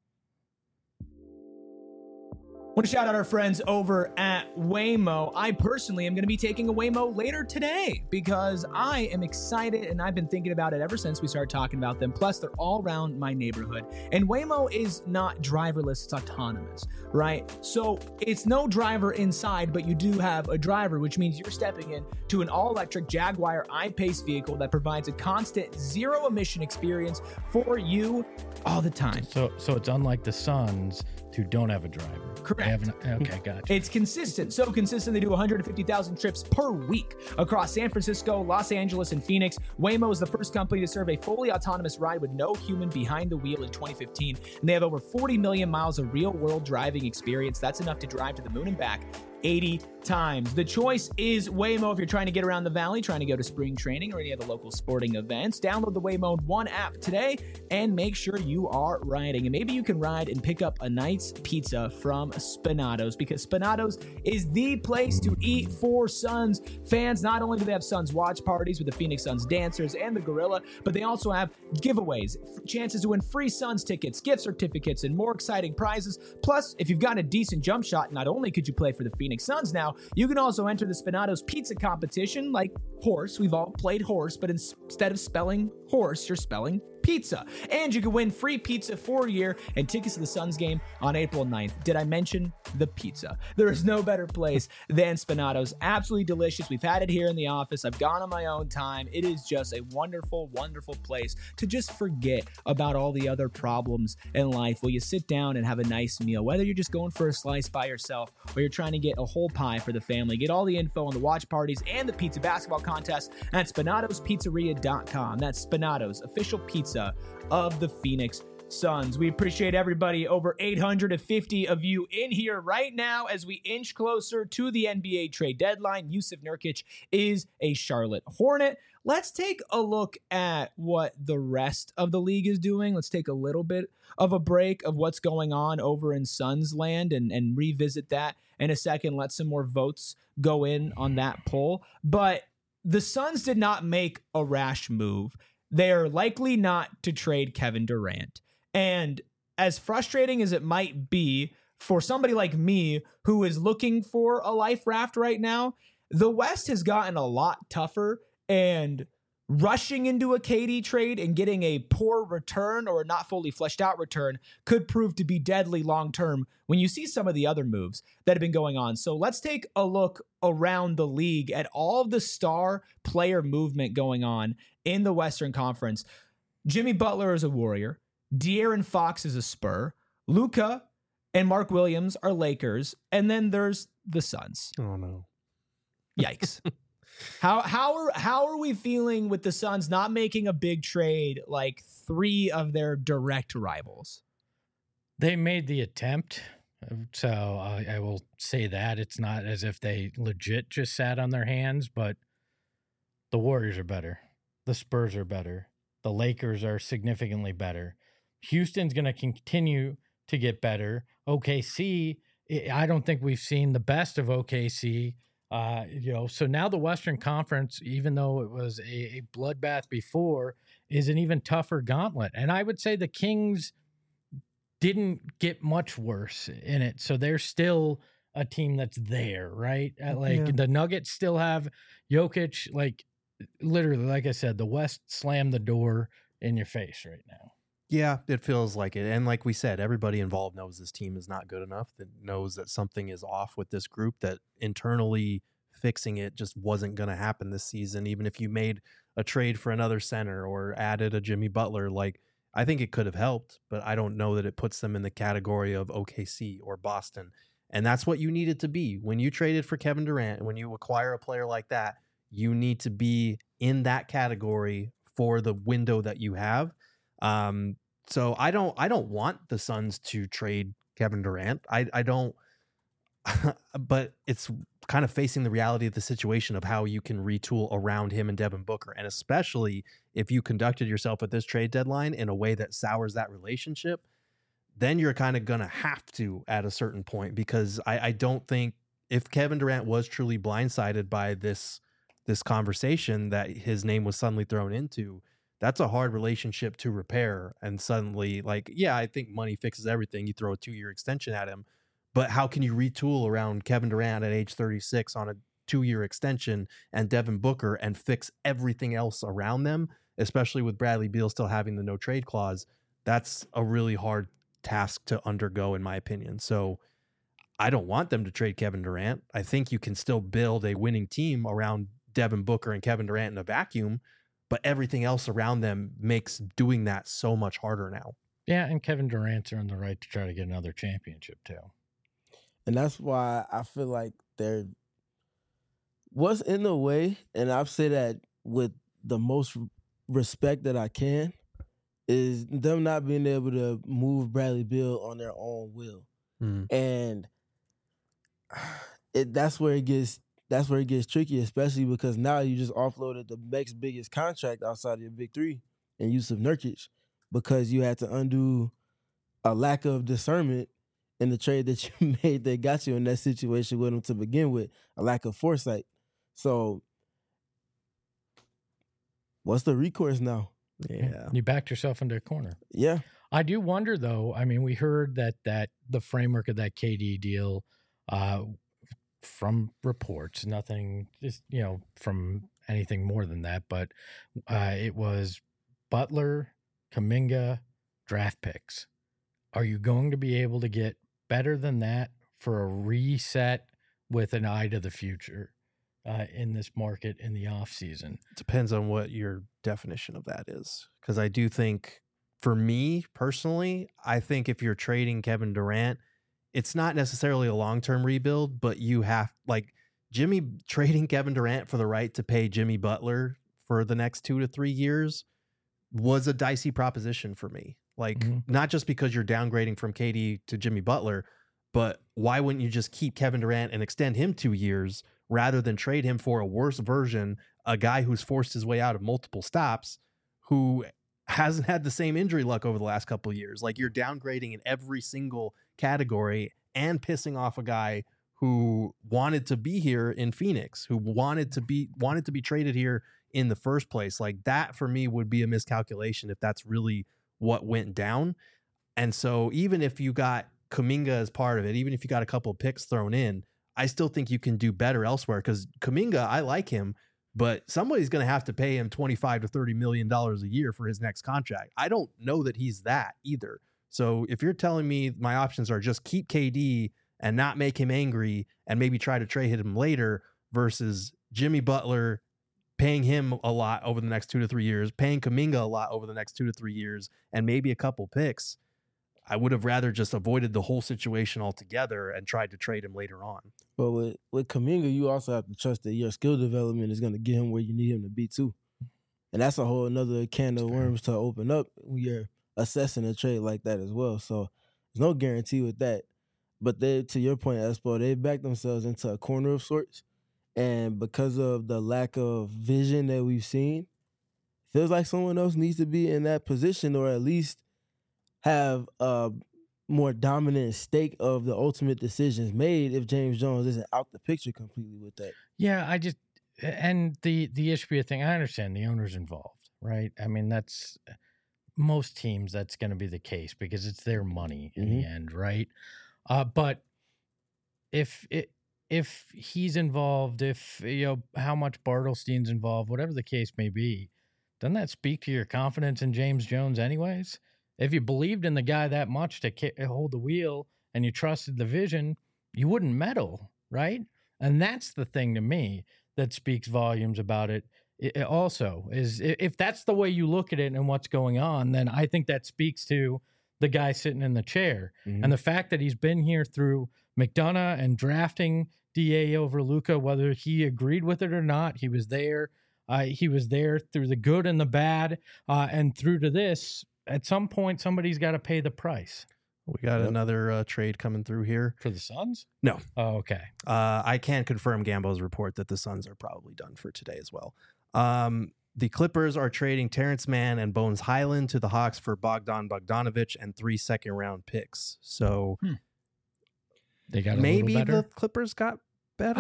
I want to shout out our friends over at Waymo. I personally am going to be taking a Waymo later today because I am excited and I've been thinking about it ever since we started talking about them. Plus, they're all around my neighborhood. And Waymo is not driverless, it's autonomous, right? So it's no driver inside, but you do have a driver, which means you're stepping in to an all-electric Jaguar I-Pace vehicle that provides a constant zero-emission experience for you all the time. So it's unlike the Suns, who don't have a driver. Correct. Okay, gotcha. It's consistent. So consistent, they do 150,000 trips per week across San Francisco, Los Angeles, and Phoenix. Waymo is the first company to serve a fully autonomous ride with no human behind the wheel in 2015. And they have over 40 million miles of real-world driving experience. That's enough to drive to the moon and back 80 times. The choice is Waymo if you're trying to get around the valley, trying to go to spring training or any other local sporting events. Download the Waymo One app today and make sure you are riding. And maybe you can ride and pick up a nice pizza from Spinatos, because Spinatos is the place to eat for Suns fans. Not only do they have Suns watch parties with the Phoenix Suns dancers and the Gorilla, but they also have giveaways, chances to win free Suns tickets, gift certificates, and more exciting prizes. Plus, if you've got a decent jump shot, not only could you play for the Phoenix Suns now, you can also enter the Spinatos pizza competition like horse. We've all played horse, but instead of spelling horse, you're spelling pizza. And you can win free pizza for a year and tickets to the Suns game on April 9th. Did I mention the pizza? There is no better place than Spinatos. Absolutely delicious. We've had it here in the office. I've gone on my own time. It is just a wonderful, wonderful place to just forget about all the other problems in life while you sit down and have a nice meal. Whether you're just going for a slice by yourself or you're trying to get a whole pie for the family, get all the info on the watch parties and the pizza basketball contest at SpinatosPizzeria.com. That's Spinatos, official pizza of the Phoenix Suns. We appreciate everybody, over 850 of you in here right now as we inch closer to the NBA trade deadline. Jusuf Nurkic is a Charlotte Hornet. Let's take a look at what the rest of the league is doing. Let's take a little bit of a break of what's going on over in Suns land and revisit that in a second. Let some more votes go in on that poll. But the Suns did not make a rash move. They are likely not to trade Kevin Durant. And as frustrating as it might be for somebody like me who is looking for a life raft right now, the West has gotten a lot tougher, and rushing into a KD trade and getting a poor return or a not fully fleshed out return could prove to be deadly long-term when you see some of the other moves that have been going on. So let's take a look around the league at all of the star player movement going on in the Western Conference. Jimmy Butler is a Warrior. De'Aaron Fox is a Spur. Luka and Mark Williams are Lakers. And then there's the Suns. Oh, no. Yikes. How are we feeling with the Suns not making a big trade like 3 of their direct rivals? They made the attempt, so I will say that. It's not as if they legit just sat on their hands, but the Warriors are better. The Spurs are better. The Lakers are significantly better. Houston's going to continue to get better. OKC, I don't think we've seen the best of OKC. So now the Western Conference, even though it was a bloodbath before, is an even tougher gauntlet. And I would say the Kings didn't get much worse in it. So they're still a team that's there, right? The Nuggets still have Jokic. Like, literally, like I said, the West slammed the door in your face right now. Yeah, it feels like it. And like we said, everybody involved knows this team is not good enough, that knows that something is off with this group, that internally fixing it just wasn't going to happen this season. Even if you made a trade for another center or added a Jimmy Butler, like, I think it could have helped, but I don't know that it puts them in the category of OKC or Boston. And that's what you needed to be. When you traded for Kevin Durant, when you acquire a player like that, you need to be in that category for the window that you have. So I don't want the Suns to trade Kevin Durant. I don't, but it's kind of facing the reality of the situation of how you can retool around him and Devin Booker. And especially if you conducted yourself at this trade deadline in a way that sours that relationship, then you're kind of going to have to at a certain point, because I don't think if Kevin Durant was truly blindsided by this conversation that his name was suddenly thrown into, that's a hard relationship to repair. And suddenly, like, yeah, I think money fixes everything. You throw a 2-year extension at him, but how can you retool around Kevin Durant at age 36 on a 2-year extension and Devin Booker and fix everything else around them, especially with Bradley Beal still having the no trade clause? That's a really hard task to undergo, in my opinion. So I don't want them to trade Kevin Durant. I think you can still build a winning team around Devin Booker and Kevin Durant in a vacuum, but everything else around them makes doing that so much harder now. Yeah, and Kevin Durant's earned the right to try to get another championship too. And that's why I feel like there was, in the way, and I've said that with the most respect that I can, is them not being able to move Bradley Beal on their own will. And that's where it gets tricky, especially because now you just offloaded the next biggest contract outside of your big three in Jusuf Nurkic, because you had to undo a lack of discernment in the trade that you made that got you in that situation with him to begin with, a lack of foresight. So what's the recourse now? Yeah. You backed yourself into a corner. Yeah. I do wonder, though. I mean, we heard that the framework of that KD deal, from reports, nothing, just, from anything more than that, but it was Butler, Kuminga, draft picks. Are you going to be able to get better than that for a reset with an eye to the future in this market in the offseason? Depends on what your definition of that is. Because I do think, for me personally, I think if you're trading Kevin Durant, it's not necessarily a long-term rebuild, but you have, like, trading Kevin Durant for the right to pay Jimmy Butler for the next 2 to 3 years was a dicey proposition for me. Like, not just because you're downgrading from KD to Jimmy Butler, but why wouldn't you just keep Kevin Durant and extend him 2 years rather than trade him for a worse version, a guy who's forced his way out of multiple stops, who hasn't had the same injury luck over the last couple of years? Like, you're downgrading in every single category and pissing off a guy who wanted to be here in Phoenix, who wanted to be traded here in the first place. Like, that for me would be a miscalculation if that's really what went down. And so even if you got Kuminga as part of it, even if you got a couple of picks thrown in, I still think you can do better elsewhere, because Kuminga, I like him, but somebody's going to have to pay him $25 to $30 million a year for his next contract. I don't know that he's that either. So if you're telling me my options are just keep KD and not make him angry and maybe try to trade him later, versus Jimmy Butler, paying him a lot over the next 2 to 3 years, paying Kuminga a lot over the next 2 to 3 years, and maybe a couple picks, I would have rather just avoided the whole situation altogether and tried to trade him later on. But with Kuminga, you also have to trust that your skill development is going to get him where you need him to be too. And that's a whole another can of worms to open up when you're assessing a trade like that as well. So there's no guarantee with that. But they, to your point, Espo, they backed themselves into a corner of sorts. And because of the lack of vision that we've seen, feels like someone else needs to be in that position, or at least have a more dominant stake of the ultimate decisions made if James Jones isn't out the picture completely with that. Yeah, and the Ishbia thing, I understand the owner's involved, right? I mean, that's most teams, that's going to be the case because it's their money in the end, right? But if he's involved, if how much Bartelstein's involved, whatever the case may be, doesn't that speak to your confidence in James Jones anyways? If you believed in the guy that much to hold the wheel and you trusted the vision, you wouldn't meddle, right? And that's the thing to me that speaks volumes about it. It also is, if that's the way you look at it and what's going on, then I think that speaks to the guy sitting in the chair. And the fact that he's been here through McDonough and drafting DA over Luka, whether he agreed with it or not, he was there. He was there through the good and the bad, and through to this. At some point, somebody's got to pay the price. We got another trade coming through here. For the Suns? No. Oh, okay. I can confirm Gambo's report that the Suns are probably done for today as well. The Clippers are trading Terrence Mann and Bones Highland to the Hawks for Bogdan Bogdanović and 3 second-round picks. So they got maybe a little better. the Clippers got better.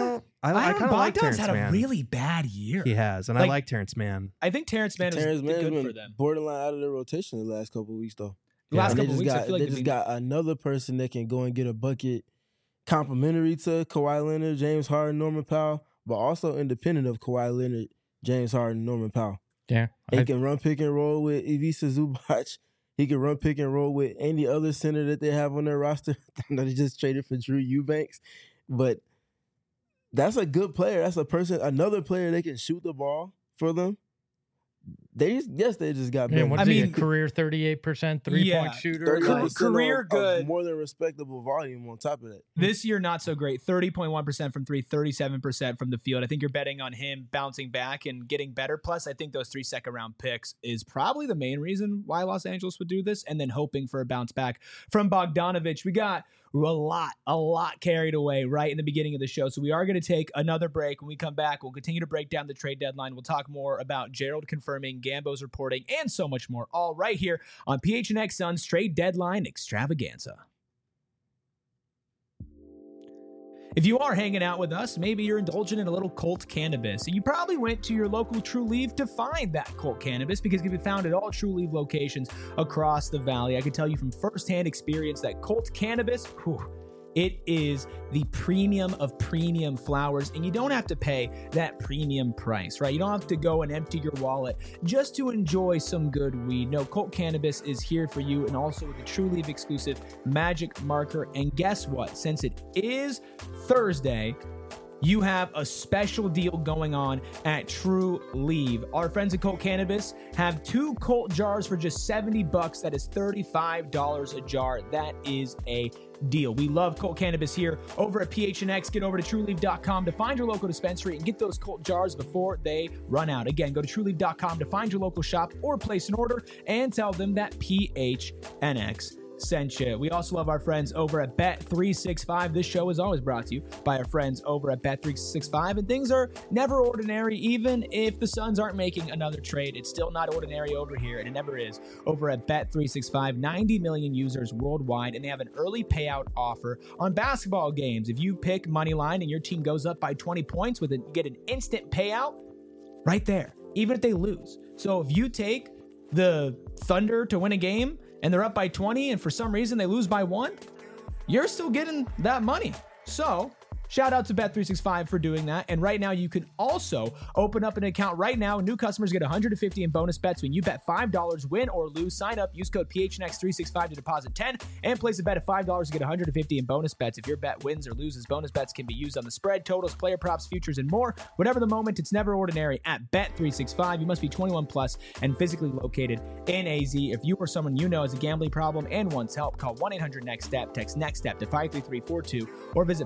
I kind of like Terrence had Mann. a really bad year. He has, and I like Terrence Mann. I think Terrence Mann is good for them. Borderline out of the rotation the last couple of weeks, though. The last couple of weeks, I feel like they just got another person that can go and get a bucket complimentary to Kawhi Leonard, James Harden, Norman Powell, but also independent of Kawhi Leonard, James Harden, Norman Powell. Yeah. He can run pick and roll with Ivica Zubac. He can run pick and roll with any other center that they have on their roster. I know they just traded for Drew Eubanks, but that's a good player. That's another player that can shoot the ball for them. They just got better. I mean, career 38% 3-point shooter. Career good. More than respectable volume on top of that. This year, not so great. 30.1% from three, 37% from the field. I think you're betting on him bouncing back and getting better. Plus, I think those 3 second-round picks is probably the main reason why Los Angeles would do this, and then hoping for a bounce back from Bogdanović. We got a lot carried away right in the beginning of the show. So we are going to take another break. When we come back, we'll continue to break down the trade deadline. We'll talk more about Gerald confirming, Gambo's reporting, and so much more, all right here on PHNX Suns Trade Deadline Extravaganza. If you are hanging out with us, maybe you're indulging in a little Colt cannabis. You probably went to your local True Leaf to find that Colt cannabis because it can be found at all True Leaf locations across the valley. I can tell you from firsthand experience that Colt cannabis, it is the premium of premium flowers, and you don't have to pay that premium price, right? You don't have to go and empty your wallet just to enjoy some good weed. No, Colt Cannabis is here for you, and also with the True Leaf exclusive Magic Marker. And guess what? Since it is Thursday, you have a special deal going on at True Leaf. Our friends at Colt Cannabis have 2 Colt jars for just $70. That is $35 a jar. That is a deal. We love Colt Cannabis here over at PHNX. Get over to TrueLeaf.com to find your local dispensary and get those Colt jars before they run out. Again, go to TrueLeaf.com to find your local shop or place an order and tell them that PHNX sent you. We also love our friends over at Bet365. This show is always brought to you by our friends over at Bet365, and things are never ordinary. Even if the Suns aren't making another trade, it's still not ordinary over here, and it never is. Over at Bet365, 90 million users worldwide, and they have an early payout offer on basketball games. If you pick money line and your team goes up by 20 points, you get an instant payout right there, even if they lose. So if you take the Thunder to win a game and they're up by 20 and for some reason they lose by 1, you're still getting that money. So Shout out to Bet365 for doing that. And right now, you can also open up an account right now. New customers get $150 in bonus bets when you bet $5, win or lose. Sign up, use code PHNX365 to deposit $10 and place a bet of $5 to get $150 in bonus bets. If your bet wins or loses, bonus bets can be used on the spread, totals, player props, futures, and more. Whatever the moment, it's never ordinary at Bet365. You must be 21 plus and physically located in AZ. If you or someone you know has a gambling problem and wants help, call 1-800-NEXT-STEP, text NEXT-STEP to 53342, or visit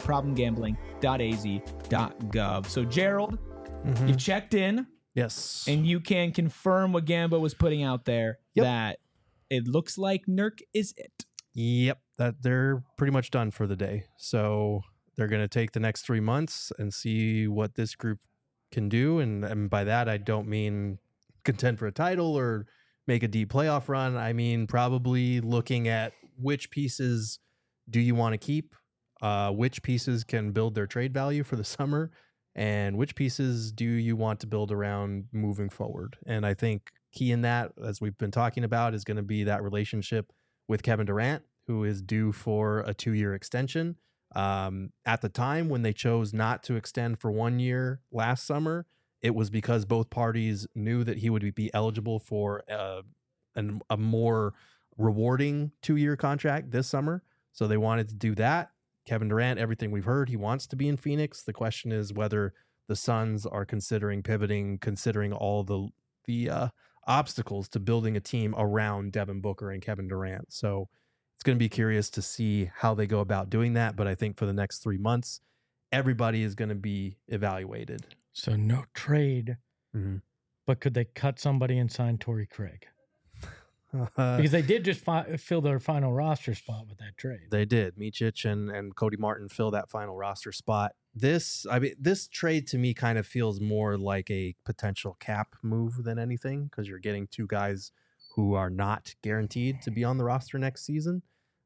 problemgambling.az.gov. So, Gerald, you checked in. Yes. And you can confirm what Gambo was putting out there, that it looks like Nurk is it. Yep. That they're pretty much done for the day. So they're going to take the next 3 months and see what this group can do. And by that, I don't mean contend for a title or make a deep playoff run. I mean, probably looking at which pieces do you want to keep, which pieces can build their trade value for the summer, and which pieces do you want to build around moving forward. And I think key in that, as we've been talking about, is going to be that relationship with Kevin Durant, who is due for a 2-year extension. At the time when they chose not to extend for 1 year last summer, it was because both parties knew that he would be eligible for a more rewarding 2-year contract this summer. So they wanted to do that. Kevin Durant, everything we've heard, he wants to be in Phoenix. The question is whether the Suns are considering pivoting, considering all the obstacles to building a team around Devin Booker and Kevin Durant. So it's going to be curious to see how they go about doing that. But I think for the next 3 months, everybody is going to be evaluated. So no trade, but could they cut somebody and sign Torrey Craig? Because they did just fill their final roster spot with that trade. They did. Micic and Cody Martin fill that final roster spot. This trade to me kind of feels more like a potential cap move than anything, because you're getting 2 guys who are not guaranteed to be on the roster next season.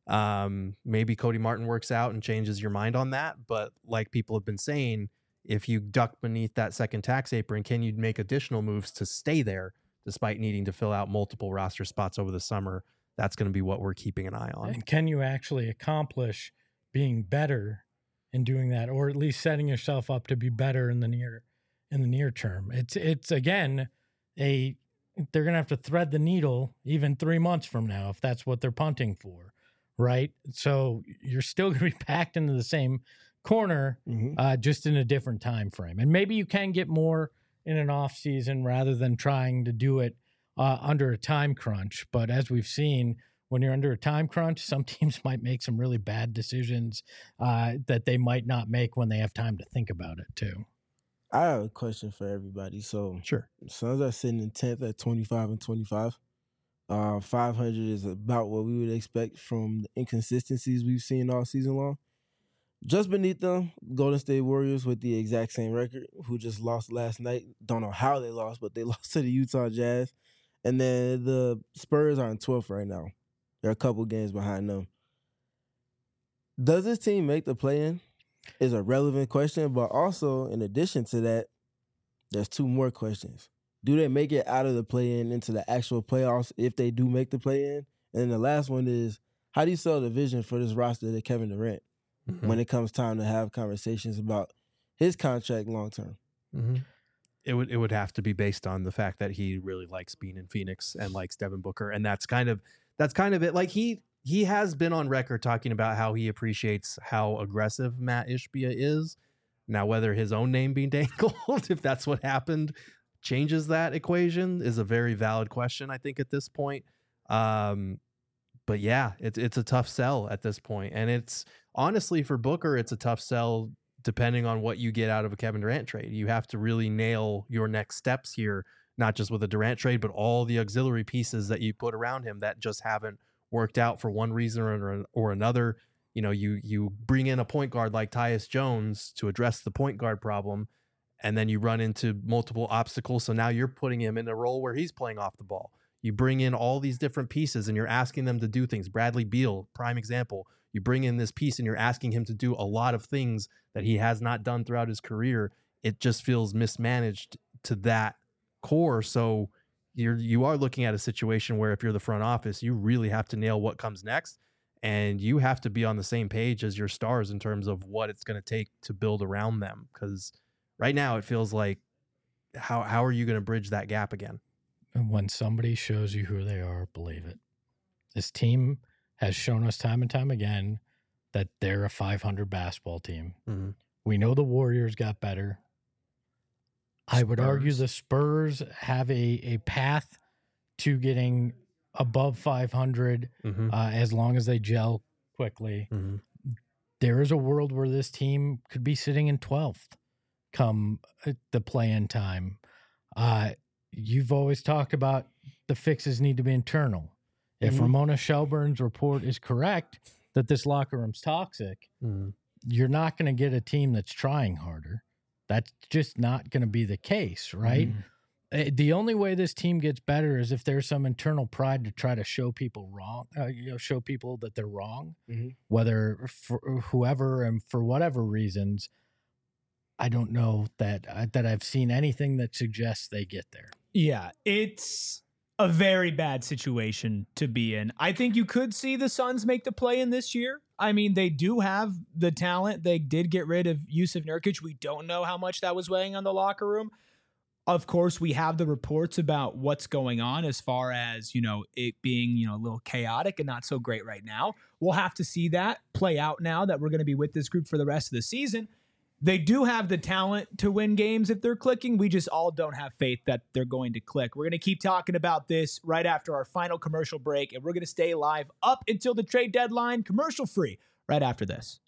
Maybe Cody Martin works out and changes your mind on that. But like people have been saying, if you duck beneath that second tax apron, can you make additional moves to stay there despite needing to fill out multiple roster spots over the summer? That's going to be what we're keeping an eye on. And can you actually accomplish being better in doing that, or at least setting yourself up to be better in the near term? It's again, they're going to have to thread the needle even 3 months from now if that's what they're punting for, right? So you're still going to be packed into the same corner, just in a different time frame. And maybe you can get more in an off season rather than trying to do it under a time crunch. But as we've seen, when you're under a time crunch, some teams might make some really bad decisions that they might not make when they have time to think about it too. I have a question for everybody. So Sure. Suns are sitting in 10th at 25-25. 500 is about what we would expect from the inconsistencies we've seen all season long. Just beneath them, Golden State Warriors with the exact same record, who just lost last night. Don't know how they lost, but they lost to the Utah Jazz. And then the Spurs are in 12th right now. They're a couple games behind them. Does this team make the play-in? Is a relevant question, but also in addition to that, there's 2 more questions. Do they make it out of the play-in into the actual playoffs if they do make the play-in? And then the last one is, how do you sell the vision for this roster to Kevin Durant when it comes time to have conversations about his contract long-term? It would have to be based on the fact that he really likes being in Phoenix and likes Devin Booker, and that's kind of it. Like he has been on record talking about how he appreciates how aggressive Matt Ishbia is. Now, whether his own name being dangled, if that's what happened, changes that equation is a very valid question, I think, at this point. But yeah, it's a tough sell at this point. And it's honestly for Booker, it's a tough sell depending on what you get out of a Kevin Durant trade. You have to really nail your next steps here, not just with a Durant trade, but all the auxiliary pieces that you put around him that just haven't worked out for one reason or another. You know, you bring in a point guard like Tyus Jones to address the point guard problem, and then you run into multiple obstacles. So now you're putting him in a role where he's playing off the ball. You bring in all these different pieces and you're asking them to do things. Bradley Beal, prime example. You bring in this piece and you're asking him to do a lot of things that he has not done throughout his career. It just feels mismanaged to that core. So you are looking at a situation where if you're the front office, you really have to nail what comes next. and you have to be on the same page as your stars in terms of what it's going to take to build around them. Because right now it feels like, how are you going to bridge that gap again? And when somebody shows you who they are, believe it. This team has shown us time and time again that they're a 500 basketball team. Mm-hmm. We know the Warriors got better. I would argue the Spurs have a path to getting above 500 as long as they gel quickly. Mm-hmm. There is a world where this team could be sitting in 12th come the play-in time. You've always talked about the fixes need to be internal. If Ramona Shelburne's report is correct that this locker room's toxic, you're not going to get a team that's trying harder. That's just not going to be the case, right? The only way this team gets better is if there's some internal pride to try to show people wrong, show people that they're wrong, whether for whoever and for whatever reasons. I don't know that I've seen anything that suggests they get there. Yeah, it's a very bad situation to be in. I think you could see the Suns make the play-in this year. I mean, they do have the talent. They did get rid of Jusuf Nurkic. We don't know how much that was weighing on the locker room. Of course, we have the reports about what's going on as far as, it being, a little chaotic and not so great right now. We'll have to see that play out now that we're going to be with this group for the rest of the season. They do have the talent to win games if they're clicking. We just all don't have faith that they're going to click. We're going to keep talking about this right after our final commercial break, and we're going to stay live up until the trade deadline, commercial free, right after this.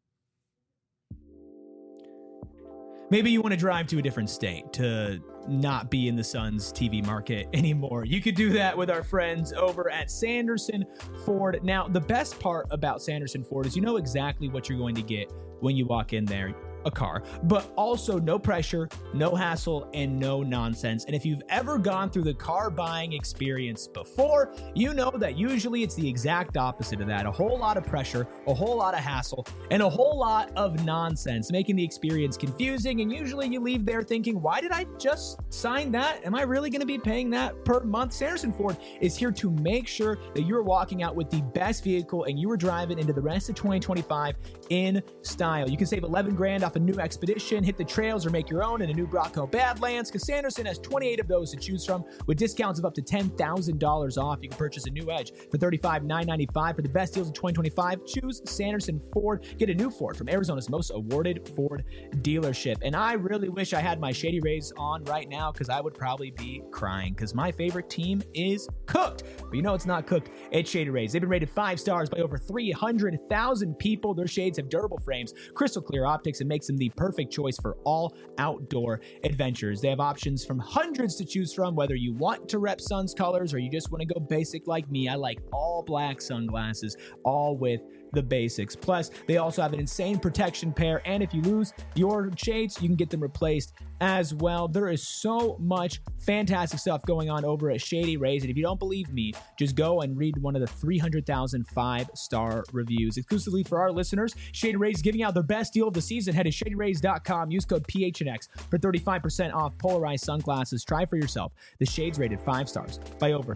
Maybe you want to drive to a different state to not be in the Suns TV market anymore. You could do that with our friends over at Sanderson Ford. Now, the best part about Sanderson Ford is you know exactly what you're going to get when you walk in there. A car, but also no pressure, no hassle, and no nonsense. And if you've ever gone through the car buying experience before, you know that usually it's the exact opposite of that. A whole lot of pressure, a whole lot of hassle, and a whole lot of nonsense, making the experience confusing. And usually you leave there thinking, why did I just sign that? Am I really going to be paying that per month? Sanderson Ford is here to make sure that you're walking out with the best vehicle and you are driving into the rest of 2025 in style. You can save $11,000 off a new Expedition, hit the trails, or make your own in a new Bronco Badlands, because Sanderson has 28 of those to choose from with discounts of up to $10,000 off. You can purchase a new Edge for $35,995. For the best deals of 2025, choose Sanderson Ford. Get a new Ford from Arizona's most awarded Ford dealership. And I really wish I had my Shady Rays on right now, because I would probably be crying, because my favorite team is cooked. But you know it's not cooked. It's Shady Rays. They've been rated 5 stars by over 300,000 people. Their shades have durable frames, crystal clear optics, and makes them the perfect choice for all outdoor adventures. They have options from hundreds to choose from, whether you want to rep Suns colors or you just want to go basic like me. I like all black sunglasses, all with the basics. Plus, they also have an insane protection pair, and if you lose your shades, you can get them replaced as well. There is so much fantastic stuff going on over at Shady Rays, and if you don't believe me, just go and read one of the 300,000 5-star reviews. Exclusively for our listeners, Shady Rays is giving out their best deal of the season. Head to ShadyRays.com, use code PHNX for 35% off polarized sunglasses. Try for yourself. The shades rated 5 stars by over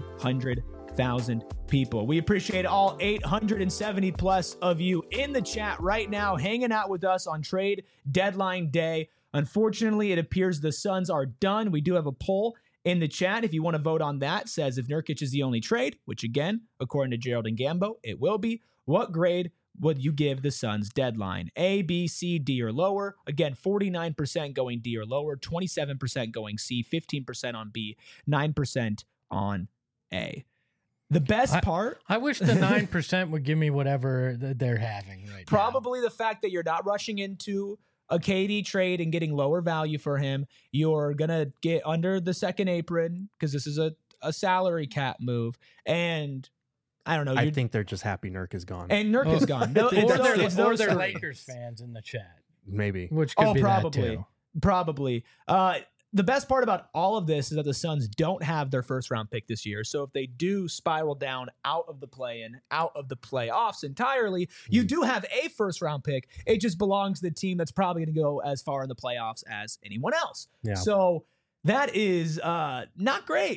300,000 people. We appreciate all 870 plus of you in the chat right now, hanging out with us on trade deadline day. Unfortunately, it appears the Suns are done. We do have a poll in the chat. If you want to vote on that, says if Nurkic is the only trade, which again, according to Gerald and Gambo, it will be. What grade would you give the Suns deadline? A, B, C, D, or lower? Again, 49% going D or lower, 27% going C, 15% on B, 9% on A. The best part... I wish the 9% would give me whatever they're having right probably now. The fact that you're not rushing into a KD trade and getting lower value for him. You're going to get under the second apron because this is a salary cap move. And I don't know. I think they're just happy Nurk is gone. And Nurk is gone. No, or they're Lakers fans in the chat. Maybe. Which could be probably. That too. Probably. The best part about all of this is that the Suns don't have their first round pick this year. So if they do spiral down out of the play-in, out of the playoffs entirely, you do have a first round pick. It just belongs to the team that's probably going to go as far in the playoffs as anyone else. Yeah. So that is not great.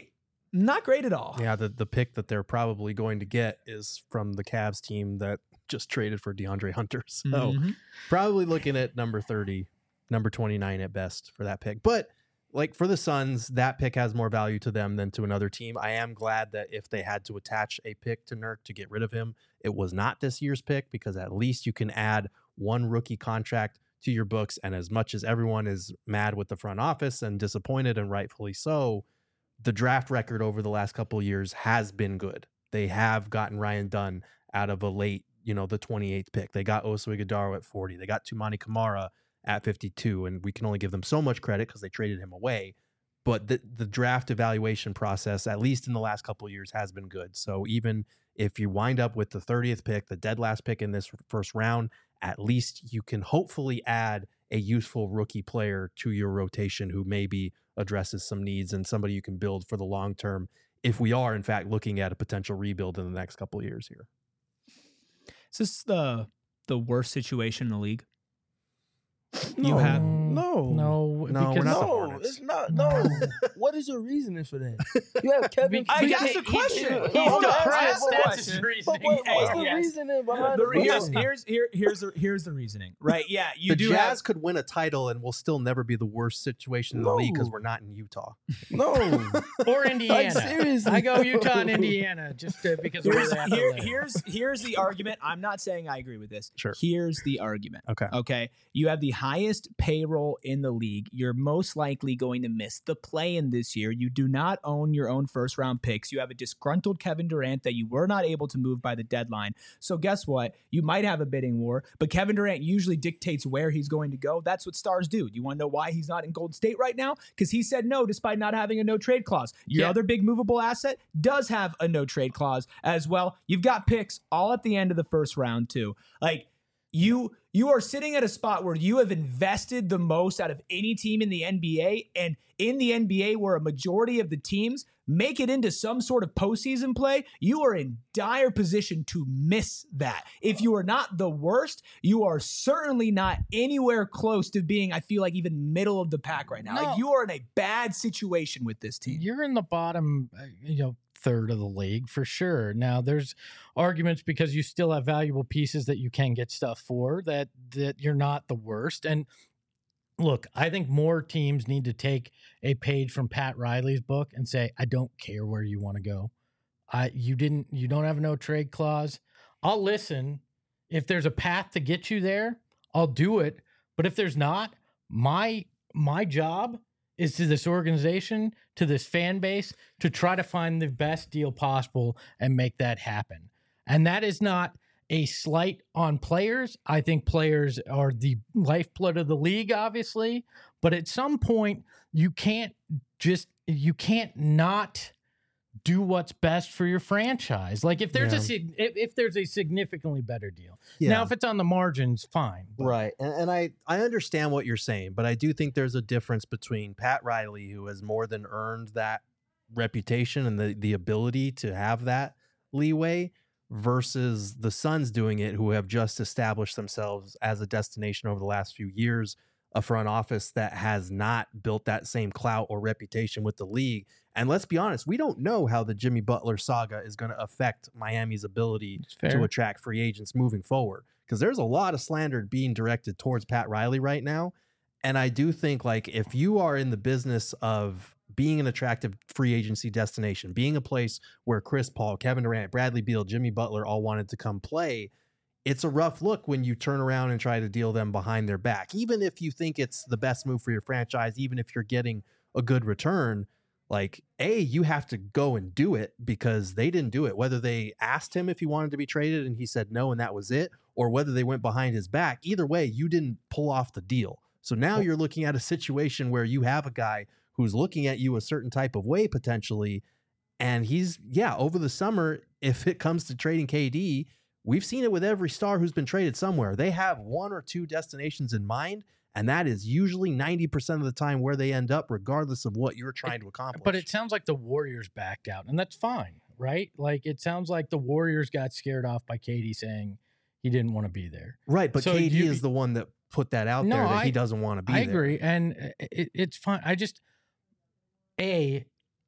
not great at all. Yeah, the pick that they're probably going to get is from the Cavs team that just traded for DeAndre Hunter. So probably looking at number 30, number 29 at best for that pick. But like for the Suns, that pick has more value to them than to another team. I am glad that if they had to attach a pick to Nurk to get rid of him, it was not this year's pick, because at least you can add one rookie contract to your books. And as much as everyone is mad with the front office and disappointed, and rightfully so, the draft record over the last couple of years has been good. They have gotten Ryan Dunn out of a late, the 28th pick. They got Oso Ighodaro at 40. They got Toumani Camara at 52, and we can only give them so much credit because they traded him away. But the draft evaluation process, at least in the last couple of years, has been good. So even if you wind up with the 30th pick, the dead last pick in this first round, at least you can hopefully add a useful rookie player to your rotation who maybe addresses some needs and somebody you can build for the long term, if we are in fact looking at a potential rebuild in the next couple of years here. Is this the worst situation in the league? No, You have no, we're not the no, Hornets. it's not. No, what is your reasoning for that? You have Kevin. I asked a question. No, He's hold on, depressed. but That's what- his But reasoning. what's the Yes. reasoning behind it? Here's the reasoning. Right? Yeah, you The do Jazz have. could win a title and we'll still never be the worst situation in the league because No. we're not in Utah. No, Or Indiana. seriously. I go Utah and Indiana just because of where they have to live. Here's the argument. I'm not saying I agree with this. Sure. Here's the argument. Okay. Okay. You have the highest payroll in the league. You're most likely going to miss the play-in this year. You do not own your own first-round picks. You have a disgruntled Kevin Durant that you were not able to move by the deadline. So guess what? You might have a bidding war, but Kevin Durant usually dictates where he's going to go. That's what stars do. Do you want to know why he's not in Golden State right now? Because he said no despite not having a no-trade clause. Your other big movable asset does have a no-trade clause as well. You've got picks all at the end of the first round too. Like, you are sitting at a spot where you have invested the most out of any team in the NBA, and in the NBA where a majority of the teams make it into some sort of postseason play, you are in dire position to miss that. If you are not the worst, you are certainly not anywhere close to being, I feel like, even middle of the pack right now. No. Like, you are in a bad situation with this team. You're in the bottom, third of the league for sure. Now there's arguments because you still have valuable pieces that you can get stuff for that you're not the worst. And look, I think more teams need to take a page from Pat Riley's book and say, I don't care where you want to go. You don't have a no trade clause. I'll listen. If there's a path to get you there, I'll do it. But if there's not, my job is to this organization, to this fan base, to try to find the best deal possible and make that happen. And that is not a slight on players. I think players are the lifeblood of the league, obviously. But at some point, you can't not do what's best for your franchise. Like if there's if there's a significantly better deal. Yeah. Now, if it's on the margins, fine. But Right. And I understand what you're saying, but I do think there's a difference between Pat Riley, who has more than earned that reputation and the ability to have that leeway, versus the Suns doing it, who have just established themselves as a destination over the last few years, a front office that has not built that same clout or reputation with the league. And let's be honest, we don't know how the Jimmy Butler saga is going to affect Miami's ability to attract free agents moving forward, because there's a lot of slander being directed towards Pat Riley right now. And I do think, like, if you are in the business of being an attractive free agency destination, being a place where Chris Paul, Kevin Durant, Bradley Beal, Jimmy Butler all wanted to come play, it's a rough look when you turn around and try to deal them behind their back. Even if you think it's the best move for your franchise, even if you're getting a good return, like, you have to go and do it because they didn't do it. Whether they asked him if he wanted to be traded and he said no and that was it, or whether they went behind his back, either way, you didn't pull off the deal. So now you're looking at a situation where you have a guy who's looking at you a certain type of way potentially, and he's, over the summer, if it comes to trading KD, we've seen it with every star who's been traded somewhere. They have one or two destinations in mind, and that is usually 90% of the time where they end up, regardless of what you're trying to accomplish. But it sounds like the Warriors backed out, and that's fine, right? Like, it sounds like the Warriors got scared off by KD saying he didn't want to be there. Right, but So KD is the one that put that out there that he doesn't want to be there. I agree, and it's fine. I just,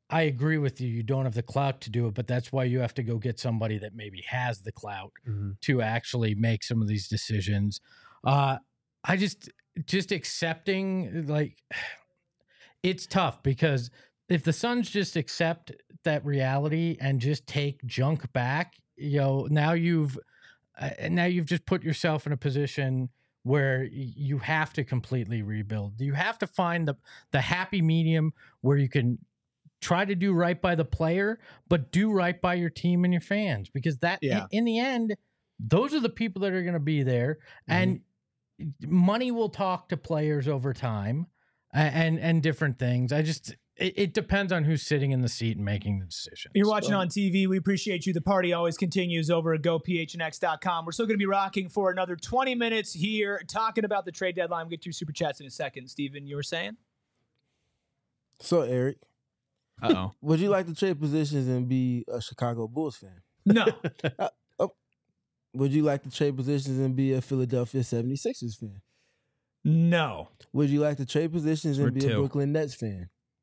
I agree with you. You don't have the clout to do it, but that's why you have to go get somebody that maybe has the clout to actually make some of these decisions. I just accepting, like, it's tough because if the Suns just accept that reality and just take junk back, now you've just put yourself in a position where you have to completely rebuild. You have to find the happy medium where you can try to do right by the player, but do right by your team and your fans, because in the end, those are the people that are going to be there, and money will talk to players over time and different things. It depends on who's sitting in the seat and making the decision. You're watching on TV. We appreciate you. The party always continues over at GoPHNX.com. We're still going to be rocking for another 20 minutes here, talking about the trade deadline. We'll get to your super chats in a second. Steven, you were saying? So, Eric. Uh-oh. Would you like to trade positions and be a Chicago Bulls fan? No. Would you like to trade positions and be a Philadelphia 76ers fan? No. Would you like to trade positions and be a Brooklyn Nets fan?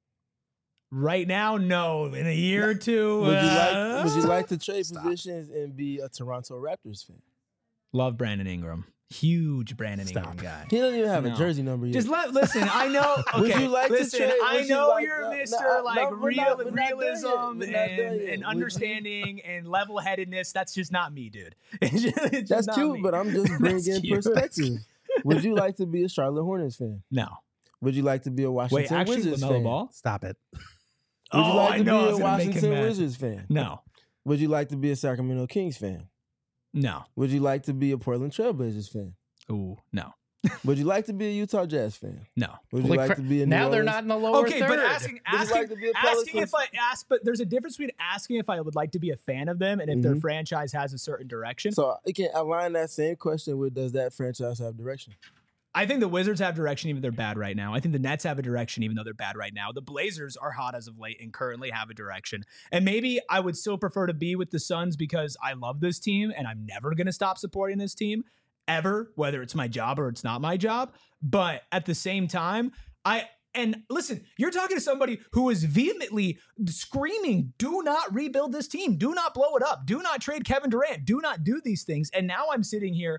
Right now, no. In a year or two. Would you like to trade positions and be a Toronto Raptors fan? Love Brandon Ingram. Huge Brandon Ingram guy. He doesn't even have a jersey number yet. Just listen. I know. Okay, would you like listen. to trade, I know you're Mr. realism and understanding and level-headedness. That's just not me, dude. It's That's not cute, me. but I'm just bringing perspective. Would you like to be a Charlotte Hornets fan? No. Would you like to be a Washington Wizards fan? Ball? Stop it. Would you like to be a Washington Washington Wizards fan? No. Would you like to be a Sacramento Kings fan? No. Would you like to be a Portland Trailblazers fan? Ooh, no. Would you like to be a Utah Jazz fan? No. Would you like to be a New now they're Orleans? not in the lower Okay, third. but asking if I ask, but there's a difference between asking if I would like to be a fan of them and if their franchise has a certain direction. So I can align that same question with, does that franchise have direction? I think the Wizards have direction even though they're bad right now. I think the Nets have a direction even though they're bad right now. The Blazers are hot as of late and currently have a direction. And maybe I would still prefer to be with the Suns because I love this team and I'm never going to stop supporting this team ever, whether it's my job or it's not my job. But at the same time, and listen, you're talking to somebody who is vehemently screaming, do not rebuild this team. Do not blow it up. Do not trade Kevin Durant. Do not do these things. And now I'm sitting here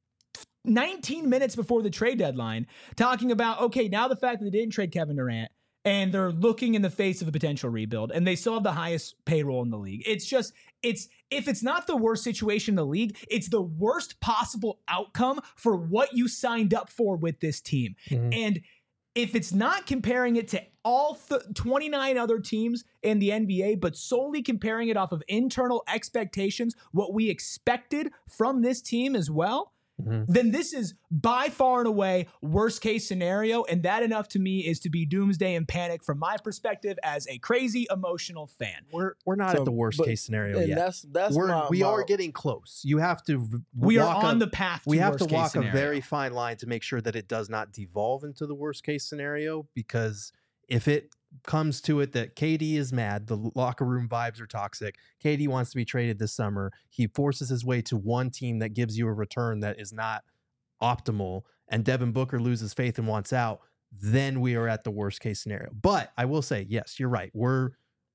19 minutes before the trade deadline talking about, okay, now the fact that they didn't trade Kevin Durant and they're looking in the face of a potential rebuild and they still have the highest payroll in the league. It's just, if it's not the worst situation in the league, it's the worst possible outcome for what you signed up for with this team. And if it's not comparing it to all 29 other teams in the NBA, but solely comparing it off of internal expectations, what we expected from this team as well, then this is by far and away worst case scenario. And that enough to me is to be doomsday and panic from my perspective as a crazy emotional fan. We're not at the worst case scenario yet. We are getting close. You have to. We are on the path. We have to walk a very fine line to make sure that it does not devolve into the worst case scenario. Because if it comes to it that KD is mad, the locker room vibes are toxic, KD wants to be traded this summer, he forces his way to one team that gives you a return that is not optimal, and Devin Booker loses faith and wants out, then we are at the worst case scenario. But I will say, yes, you're right. We're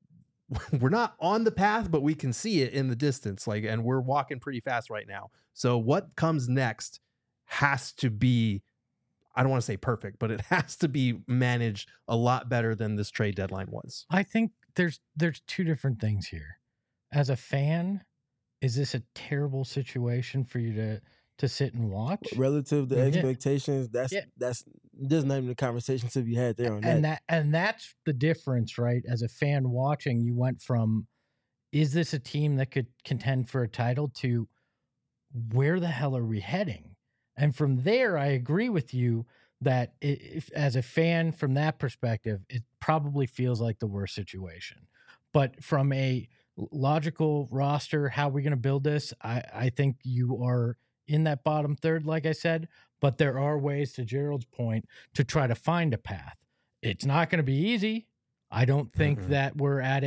not on the path, but we can see it in the distance, and we're walking pretty fast right now. So what comes next has to be, I don't want to say perfect, but it has to be managed a lot better than this trade deadline was. I think there's two different things here. As a fan, is this a terrible situation for you to sit and watch? Relative to expectations, that's there's not even a conversation to be had there on that. And that's the difference, right? As a fan watching, you went from, is this a team that could contend for a title, to where the hell are we heading? And from there, I agree with you that if, as a fan, from that perspective, it probably feels like the worst situation. But from a logical roster, how are we going to build this? I think you are in that bottom third, like I said, but there are ways, to Gerald's point, to try to find a path. It's not going to be easy. I don't think that we're at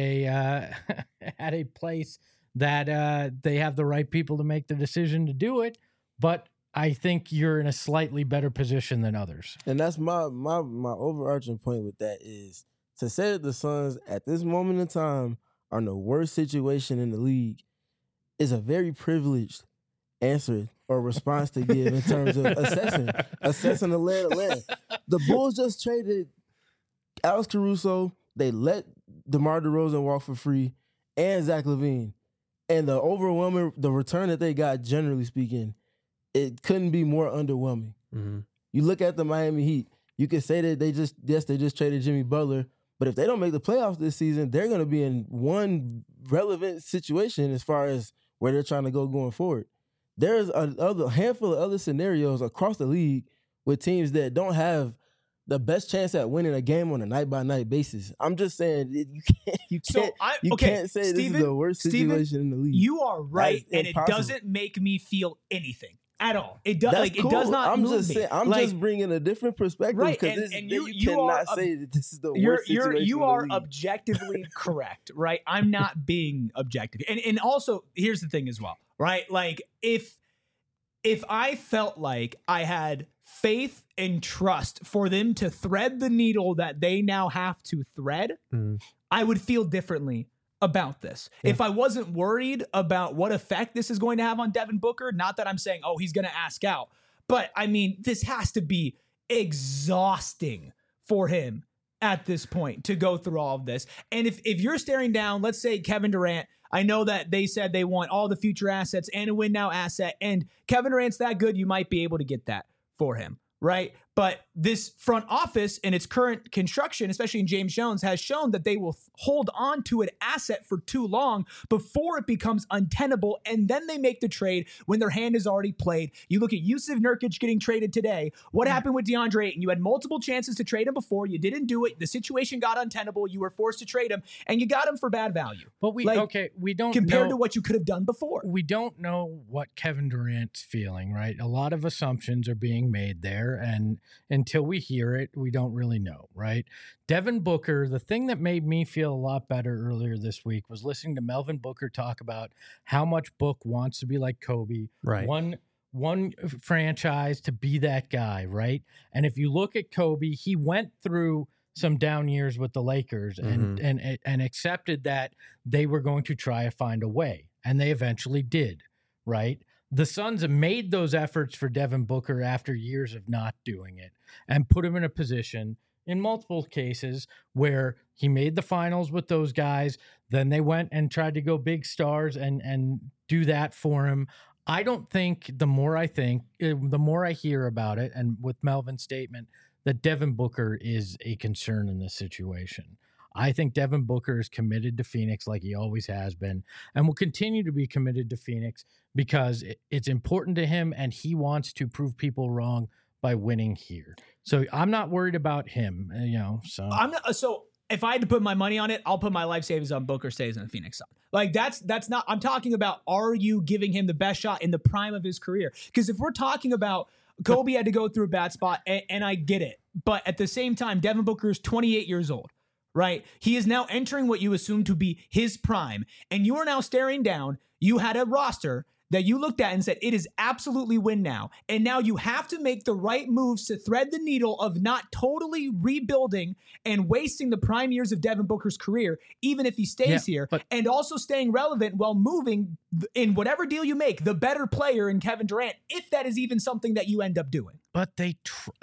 a place that they have the right people to make the decision to do it, but I think you're in a slightly better position than others. And that's my overarching point with that is To say that the Suns at this moment in time are in the worst situation in the league is a very privileged answer or response to give in terms of assessing the lay of the land. The Bulls just traded Alex Caruso. They let DeMar DeRozan walk for free and Zach LaVine. And the return that they got, generally speaking, it couldn't be more underwhelming. Mm-hmm. You look at the Miami Heat, you could say that they just traded Jimmy Butler, but if they don't make the playoffs this season, they're going to be in one relevant situation as far as where they're trying to go going forward. There's a handful of other scenarios across the league with teams that don't have the best chance at winning a game on a night-by-night basis. I'm just saying you can't say Steven, this is the worst situation in the league. You are right, and it doesn't make me feel anything at all. It does. Cool. It does not. I'm move just me. saying. I'm just bringing a different perspective, right? Because you cannot say that this is the worst situation. You are objectively correct, right? I'm not being objective, and also here's the thing as well, right? Like if I felt like I had faith and trust for them to thread the needle that they now have to thread, I would feel differently about this. Yeah. If I wasn't worried about what effect this is going to have on Devin Booker, not that I'm saying, oh, he's going to ask out, but I mean, this has to be exhausting for him at this point to go through all of this. And if you're staring down, let's say Kevin Durant, I know that they said they want all the future assets and a win now asset, and Kevin Durant's that good, you might be able to get that for him, right? But this front office in its current construction, especially in James Jones, has shown that they will hold on to an asset for too long before it becomes untenable, and then they make the trade when their hand is already played. You look at Yusuf Nurkic getting traded today. What happened with DeAndre Ayton? You had multiple chances to trade him before. You didn't do it. The situation got untenable. You were forced to trade him, and you got him for bad value. But we don't compared know, to what you could have done before. We don't know what Kevin Durant's feeling, right? A lot of assumptions are being made there, and until we hear it, we don't really know, right? Devin Booker, the thing that made me feel a lot better earlier this week was listening to Melvin Booker talk about how much Book wants to be like Kobe. Right. One franchise to be that guy, right? And if you look at Kobe, he went through some down years with the Lakers and accepted that they were going to try to find a way, and they eventually did, right? The Suns have made those efforts for Devin Booker after years of not doing it and put him in a position in multiple cases where he made the finals with those guys. Then they went and tried to go big stars and do that for him. I don't think the more I hear about it, and with Melvin's statement, that Devin Booker is a concern in this situation. I think Devin Booker is committed to Phoenix like he always has been and will continue to be committed to Phoenix because it's important to him and he wants to prove people wrong by winning here. So I'm not worried about him, So if I had to put my money on it, I'll put my life savings on Booker stays in the Phoenix Sun. Like that's not, I'm talking about, are you giving him the best shot in the prime of his career? Because if we're talking about Kobe had to go through a bad spot, and I get it, but at the same time, Devin Booker is 28 years old. Right? He is now entering what you assume to be his prime. And you are now staring down. You had a roster that you looked at and said, it is absolutely win now. And now you have to make the right moves to thread the needle of not totally rebuilding and wasting the prime years of Devin Booker's career, even if he stays here, and also staying relevant while moving in whatever deal you make, the better player in Kevin Durant, if that is even something that you end up doing. But they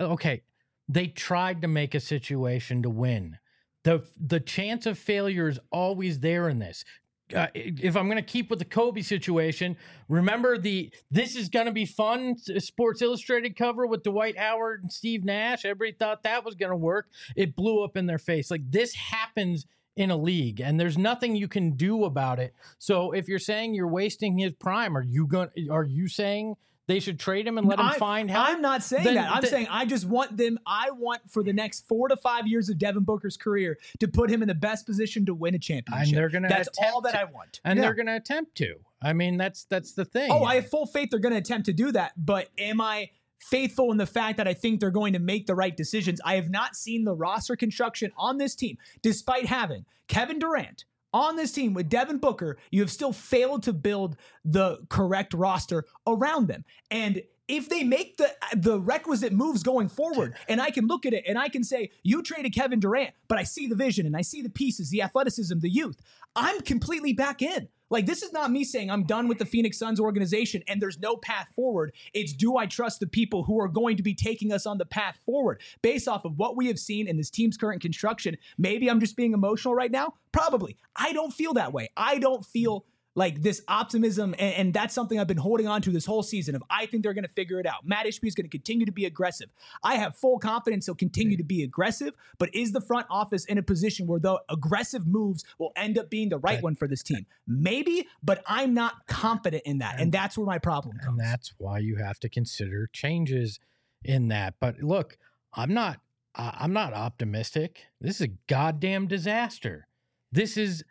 tried to make a situation to win. The chance of failure is always there in this. If I'm going to keep with the Kobe situation, remember this is going to be fun Sports Illustrated cover with Dwight Howard and Steve Nash. Everybody thought that was going to work. It blew up in their face. Like, this happens in a league and there's nothing you can do about it. So if you're saying you're wasting his prime, are you saying they should trade him and let him find help? I'm not saying that. I'm saying I just want them. I want for the next 4 to 5 years of Devin Booker's career to put him in the best position to win a championship. And they're going to. That's all that I want. And they're going to attempt to. I mean, that's the thing. Oh, I have full faith they're going to attempt to do that. But am I faithful in the fact that I think they're going to make the right decisions? I have not seen the roster construction on this team, despite having Kevin Durant on this team with Devin Booker. You have still failed to build the correct roster around them. And if they make the requisite moves going forward, and I can look at it and I can say, you traded Kevin Durant, but I see the vision and I see the pieces, the athleticism, the youth, I'm completely back in. Like, this is not me saying I'm done with the Phoenix Suns organization and there's no path forward. It's, do I trust the people who are going to be taking us on the path forward based off of what we have seen in this team's current construction? Maybe I'm just being emotional right now. Probably. I don't feel that way. I don't feel like this optimism, and that's something I've been holding on to this whole season of, I think they're going to figure it out. Matt Ishbia is going to continue to be aggressive. I have full confidence he'll continue to be aggressive, but is the front office in a position where the aggressive moves will end up being the right one for this team? Maybe, but I'm not confident in that, and that's where my problem comes. And that's why you have to consider changes in that. But look, I'm not optimistic. This is a goddamn disaster. This is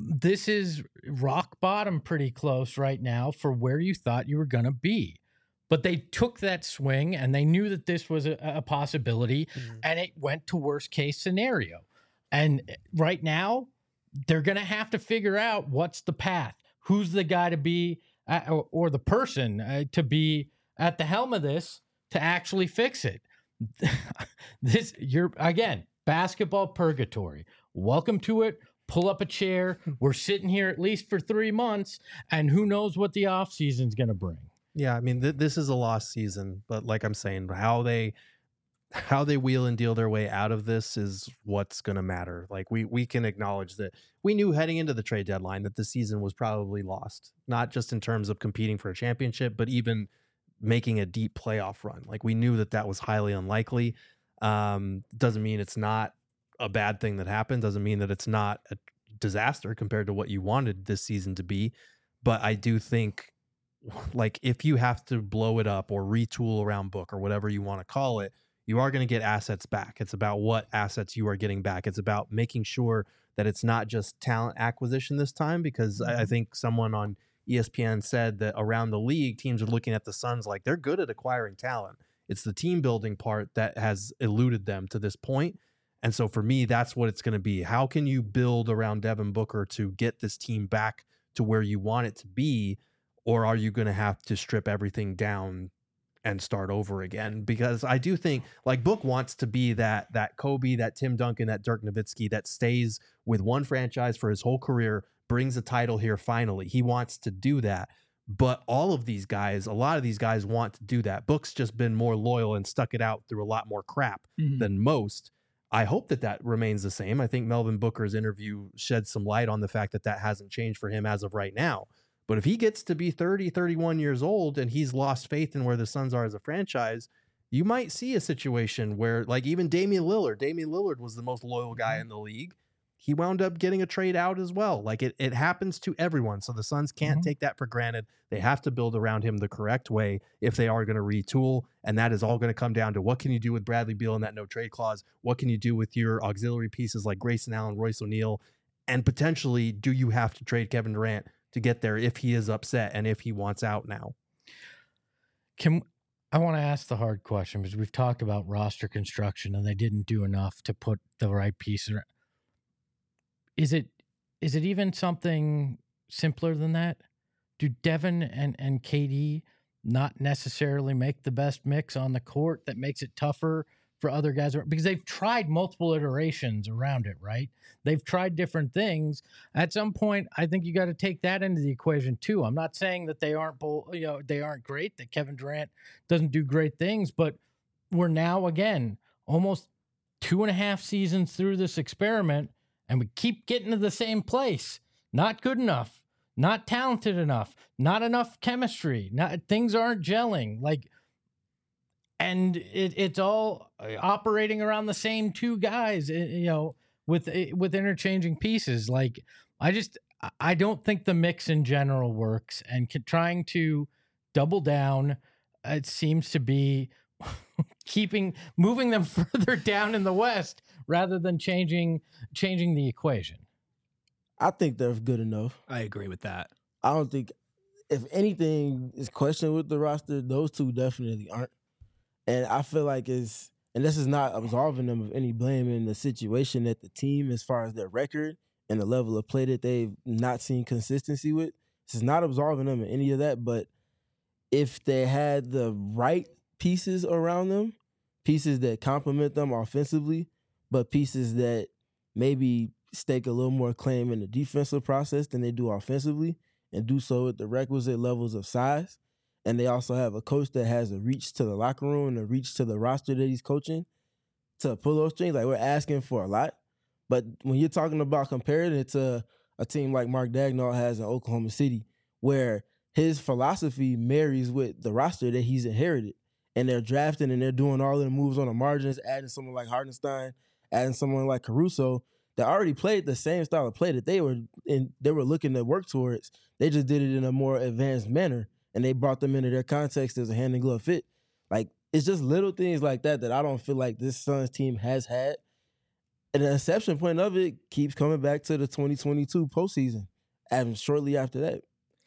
rock bottom pretty close right now for where you thought you were going to be. But they took that swing and they knew that this was a possibility, and it went to worst case scenario. And right now, they're going to have to figure out what's the path. Who's the guy to be, or the person to be at the helm of this to actually fix it. You're again, basketball purgatory. Welcome to it. Pull up a chair. We're sitting here at least for 3 months, and who knows what the offseason's going to bring. Yeah, I mean, this is a lost season, but like I'm saying, how they wheel and deal their way out of this is what's going to matter. Like, we can acknowledge that we knew heading into the trade deadline that the season was probably lost, not just in terms of competing for a championship, but even making a deep playoff run. Like, we knew that was highly unlikely. Doesn't mean it's not a bad thing that happened, doesn't mean that it's not a disaster compared to what you wanted this season to be. But I do think, like, if you have to blow it up or retool around Book or whatever you want to call it, you are going to get assets back. It's about what assets you are getting back. It's about making sure that it's not just talent acquisition this time, because I think someone on ESPN said that around the league, teams are looking at the Suns like they're good at acquiring talent. It's the team building part that has eluded them to this point. And so for me, that's what it's going to be. How can you build around Devin Booker to get this team back to where you want it to be? Or are you going to have to strip everything down and start over again? Because I do think, like, Book wants to be that Kobe, that Tim Duncan, that Dirk Nowitzki that stays with one franchise for his whole career, brings a title here finally. He wants to do that. But all of these guys, a lot of these guys want to do that. Book's just been more loyal and stuck it out through a lot more crap than most. I hope that remains the same. I think Melvin Booker's interview shed some light on the fact that hasn't changed for him as of right now. But if he gets to be 30, 31 years old and he's lost faith in where the Suns are as a franchise, you might see a situation where, like, even Damian Lillard was the most loyal guy in the league. He wound up getting a trade out as well. Like, it happens to everyone. So the Suns can't take that for granted. They have to build around him the correct way if they are going to retool. And that is all going to come down to, what can you do with Bradley Beal in that no trade clause? What can you do with your auxiliary pieces like Grayson Allen, Royce O'Neal? And potentially, do you have to trade Kevin Durant to get there if he is upset and if he wants out now? I want to ask the hard question, because we've talked about roster construction and they didn't do enough to put the right piece around. Is it even something simpler than that? Do Devin and KD not necessarily make the best mix on the court that makes it tougher for other guys? Because they've tried multiple iterations around it, right? They've tried different things. At some point, I think you got to take that into the equation too. I'm not saying that they aren't great, that Kevin Durant doesn't do great things, but we're now, again, almost 2.5 seasons through this experiment, and we keep getting to the same place. Not good enough, not talented enough, not enough chemistry. Things aren't gelling. And it's all operating around the same two guys, with interchanging pieces. Like, I don't think the mix in general works, and trying to double down, it seems to be moving them further down in the West rather than changing the equation. I think they're good enough. I agree with that. I don't think, if anything is questioned with the roster, those two definitely aren't. And I feel like this is not absolving them of any blame in the situation that the team, as far as their record and the level of play that they've not seen consistency with, this is not absolving them of any of that. But if they had the right pieces around them, pieces that complement them offensively, but pieces that maybe stake a little more claim in the defensive process than they do offensively, and do so at the requisite levels of size. And they also have a coach that has a reach to the locker room and a reach to the roster that he's coaching to pull those strings. Like, we're asking for a lot. But when you're talking about comparing it to a team like Mark Daigneault has in Oklahoma City, where his philosophy marries with the roster that he's inherited, and they're drafting and they're doing all of the moves on the margins, adding someone like Hartenstein, adding someone like Caruso, that already played the same style of play that they were looking to work towards. They just did it in a more advanced manner, and they brought them into their context as a hand and glove fit. Like, it's just little things like that I don't feel like this Suns team has had. And the exception point of it keeps coming back to the 2022 postseason, and shortly after that.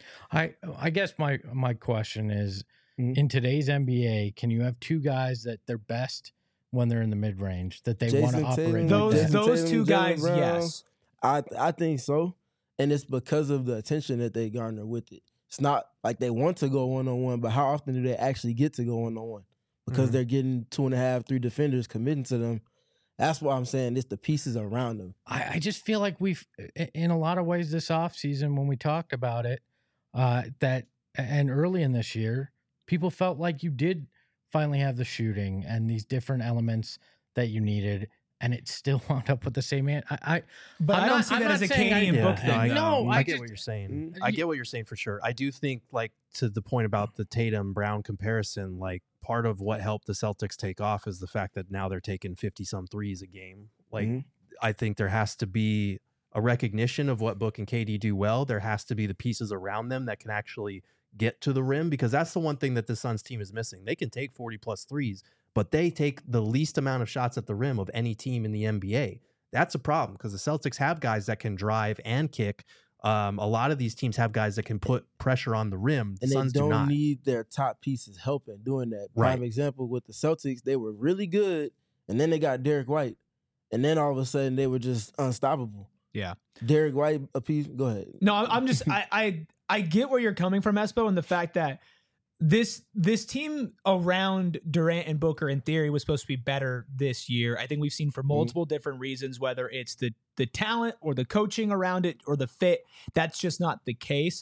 I guess my question is, in today's NBA, can you have two guys that they're best when they're in the mid range, that they want to operate? Those two guys, Brown, yes. I think so. And it's because of the attention that they garner with it. It's not like they want to go one-on-one, but how often do they actually get to go one-on-one? Because they're getting 2.5, 3 defenders committing to them. That's why I'm saying it's the pieces around them. I just feel like we've, in a lot of ways this offseason when we talked about it, and early in this year, people felt like you did finally have the shooting and these different elements that you needed, and it still wound up with the same man. I don't see that as a Canadian book thing. I get what you're saying. I get what you're saying for sure. I do think, like, to the point about the Tatum Brown comparison, like, part of what helped the Celtics take off is the fact that now they're taking 50-some threes a game. Like, I think there has to be a recognition of what Book and KD do well. There has to be the pieces around them that can actually get to the rim, because that's the one thing that the Suns team is missing. They can take 40-plus threes, but they take the least amount of shots at the rim of any team in the NBA. That's a problem, because the Celtics have guys that can drive and kick. A lot of these teams have guys that can put pressure on the rim. And Suns they don't do not need their top pieces helping doing that. Prime example with the Celtics, they were really good, and then they got Derek White, and then all of a sudden they were just unstoppable. Yeah. Derek White, a piece. Go ahead. No, I'm just I get where you're coming from, Espo, and the fact that this team around Durant and Booker in theory was supposed to be better this year. I think we've seen for multiple different reasons, whether it's the talent or the coaching around it or the fit. That's just not the case.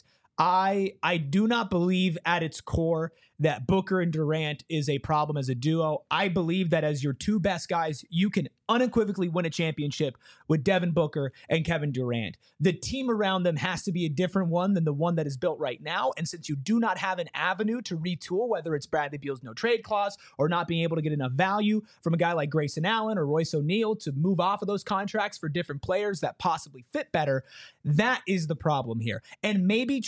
I do not believe at its core that Booker and Durant is a problem as a duo. I believe that as your two best guys, you can unequivocally win a championship with Devin Booker and Kevin Durant. The team around them has to be a different one than the one that is built right now. And since you do not have an avenue to retool, whether it's Bradley Beal's no trade clause or not being able to get enough value from a guy like Grayson Allen or Royce O'Neal to move off of those contracts for different players that possibly fit better, that is the problem here. And maybe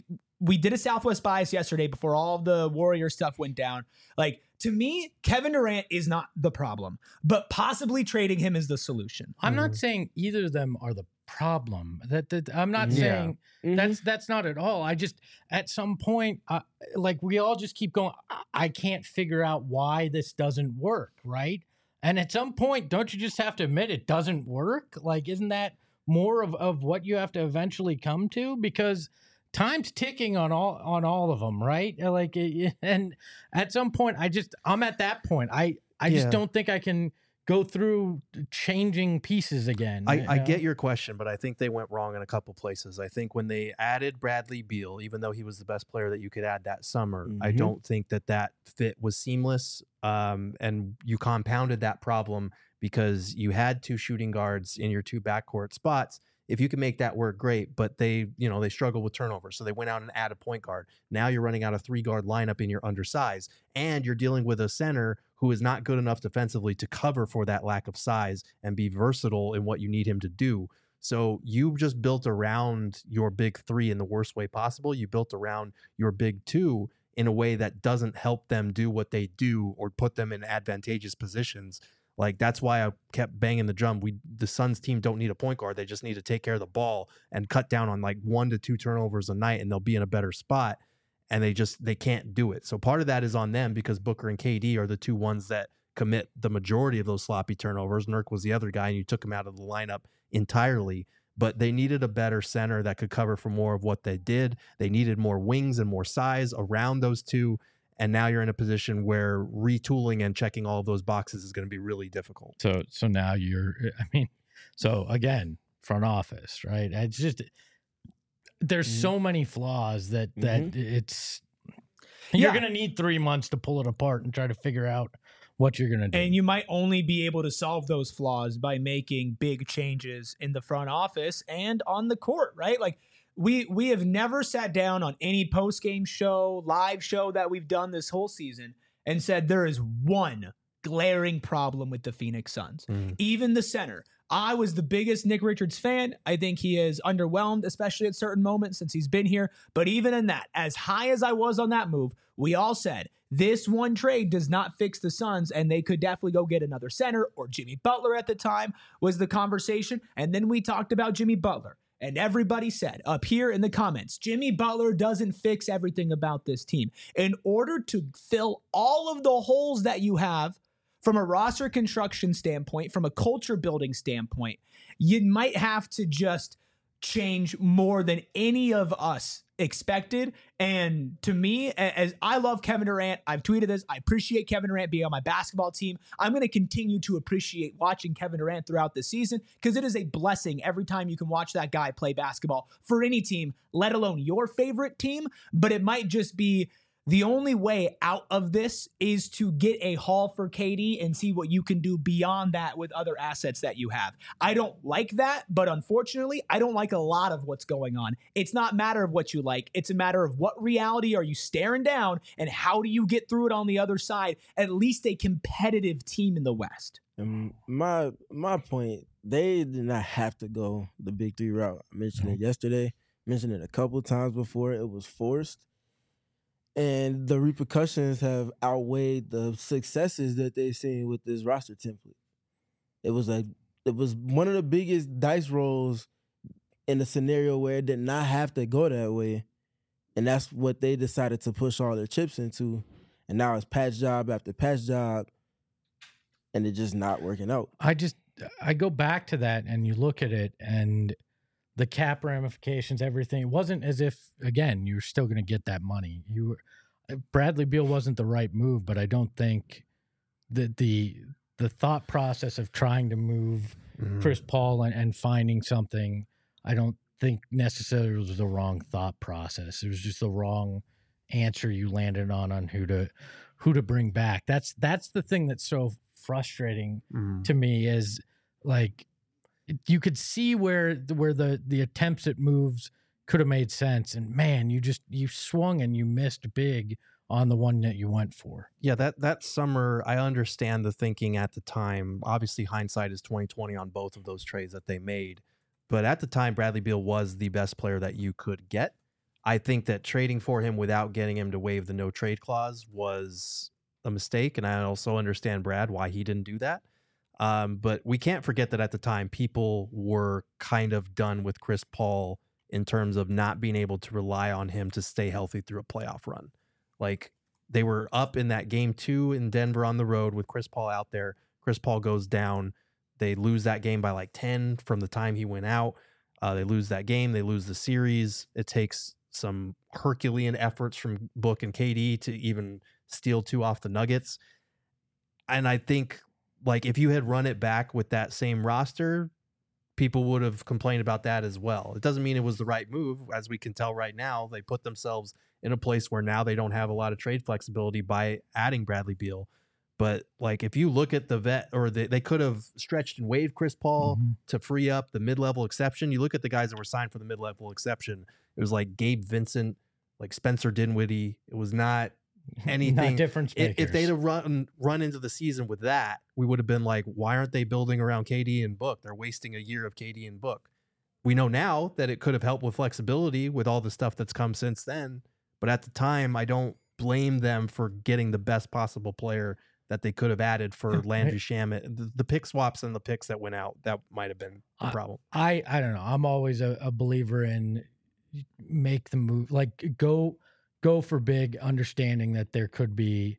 we did a Southwest bias yesterday before all of the Warrior stuff went down. Like, to me, Kevin Durant is not the problem, but possibly trading him is the solution. I'm not saying either of them are the problem. I'm not saying that's not at all. I just, at some point, like, we all just keep going, I can't figure out why this doesn't work, right? And at some point, don't you just have to admit it doesn't work? Like, isn't that more of what you have to eventually come to? Because time's ticking on all of them, right? Like, and at some point, I'm at that point. I just don't think I can go through changing pieces again. I get your question, but I think they went wrong in a couple places. I think when they added Bradley Beal, even though he was the best player that you could add that summer, I don't think that fit was seamless. And you compounded that problem because you had two shooting guards in your two backcourt spots. If you can make that work, great. But they struggle with turnovers. So they went out and added a point guard. Now you're running out a 3-guard lineup and you're undersized. And you're dealing with a center who is not good enough defensively to cover for that lack of size and be versatile in what you need him to do. So you just built around your big three in the worst way possible. You built around your big two in a way that doesn't help them do what they do or put them in advantageous positions. Like, that's why I kept banging the drum. The Suns team don't need a point guard. They just need to take care of the ball and cut down on like 1 to 2 turnovers a night, and they'll be in a better spot. And they can't do it. So part of that is on them because Booker and KD are the two ones that commit the majority of those sloppy turnovers. Nurk was the other guy, and you took him out of the lineup entirely. but they needed a better center that could cover for more of what they did. They needed more wings and more size around those two. And now you're in a position where retooling and checking all of those boxes is going to be really difficult. So now so again, front office, right? It's just, there's so many flaws that it's, you're going to need 3 months to pull it apart and try to figure out what you're going to do. And you might only be able to solve those flaws by making big changes in the front office and on the court, right? Like, we have never sat down on any post-game show, live show that we've done this whole season and said there is one glaring problem with the Phoenix Suns. Even the center. I was the biggest Nick Richards fan. I think he is underwhelmed, especially at certain moments since he's been here. But even in that, as high as I was on that move, we all said this one trade does not fix the Suns, and they could definitely go get another center, or Jimmy Butler at the time was the conversation. And then we talked about Jimmy Butler. And everybody said up here in the comments, Jimmy Butler doesn't fix everything about this team. In order to fill all of the holes that you have from a roster construction standpoint, from a culture building standpoint, you might have to just change more than any of us expected. And to me, as I love Kevin Durant, I've tweeted this, I appreciate Kevin Durant being on my basketball team. I'm going to continue to appreciate watching Kevin Durant throughout the season because it is a blessing every time you can watch that guy play basketball for any team, let alone your favorite team. But it might just be the only way out of this is to get a haul for KD and see what you can do beyond that with other assets that you have. I don't like that, but unfortunately, I don't like a lot of what's going on. It's not a matter of what you like. It's a matter of what reality are you staring down and how do you get through it on the other side, at least a competitive team in the West. And my point, they did not have to go the big three route. I mentioned it yesterday, mentioned it a couple of times before. It was forced. And the repercussions have outweighed the successes that they've seen with this roster template. It was one of the biggest dice rolls in a scenario where it did not have to go that way. And that's what they decided to push all their chips into. And now it's patch job after patch job. And it's just not working out. I go back to that and you look at it and the cap ramifications, everything. It wasn't as if, again, you're still going to get that money. Bradley Beal wasn't the right move, but I don't think that the thought process of trying to move Chris Paul and finding something, I don't think necessarily was the wrong thought process. It was just the wrong answer you landed on who to bring back. That's the thing that's so frustrating to me is like, you could see where the attempts at moves could have made sense. And man, you swung and you missed big on the one that you went for. Yeah, that summer, I understand the thinking at the time. Obviously, hindsight is 20/20 on both of those trades that they made. But at the time, Bradley Beal was the best player that you could get. I think that trading for him without getting him to waive the no trade clause was a mistake. And I also understand Brad why he didn't do that. But we can't forget that at the time, people were kind of done with Chris Paul in terms of not being able to rely on him to stay healthy through a playoff run. Like, they were up in that game 2 in Denver on the road with Chris Paul out there. Chris Paul goes down. They lose that game by like 10 from the time he went out. They lose that game. They lose the series. It takes some Herculean efforts from Book and KD to even steal 2 off the Nuggets. And I think, like, if you had run it back with that same roster, people would have complained about that as well. It doesn't mean it was the right move. As we can tell right now, they put themselves in a place where now they don't have a lot of trade flexibility by adding Bradley Beal. But like, if you look at the vet, or they could have stretched and waived Chris Paul to free up the mid-level exception. You look at the guys that were signed for the mid-level exception. It was like Gabe Vincent, like Spencer Dinwiddie. It was not anything. Not difference makers. If they'd have run into the season with that, we would have been like, why aren't they building around KD and Book? They're wasting a year of KD and Book. We know now that it could have helped with flexibility with all the stuff that's come since then. But at the time, I don't blame them for getting the best possible player that they could have added for Landry Shamet. The pick swaps and the picks that went out, that might have been the problem. I don't know. I'm always a believer in make the move, like go for big, understanding that there could be,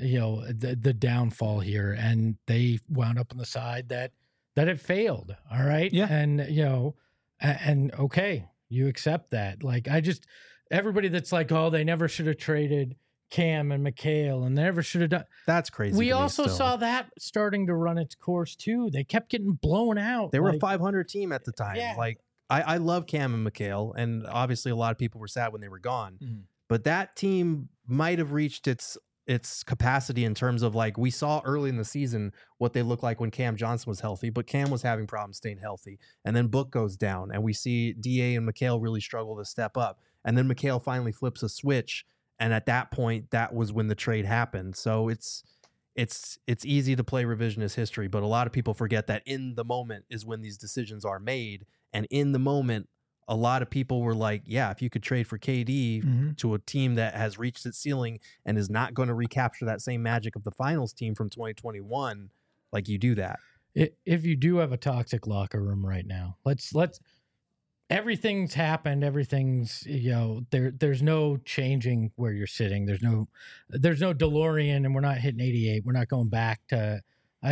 the downfall here, and they wound up on the side that it failed. All right. Yeah. And, And okay, you accept that. Like, everybody that's like, oh, they never should have traded Cam and Mikhail and they never should have done. That's crazy. We also saw that starting to run its course too. They kept getting blown out. They were a 500 team at the time. Yeah. Like, I love Cam and Mikhail, and obviously a lot of people were sad when they were gone. But that team might have reached its capacity in terms of, like, we saw early in the season what they looked like when Cam Johnson was healthy, but Cam was having problems staying healthy. And then Book goes down, and we see DA and Mikhail really struggle to step up. And then Mikhail finally flips a switch, and at that point, that was when the trade happened. So it's easy to play revisionist history, but a lot of people forget that in the moment is when these decisions are made. And in the moment, a lot of people were like, yeah, if you could trade for KD to a team that has reached its ceiling and is not going to recapture that same magic of the finals team from 2021, like, you do that. If you do have a toxic locker room right now, let's everything's happened. Everything's, there's no changing where you're sitting. There's no DeLorean, and we're not hitting 88. We're not going back to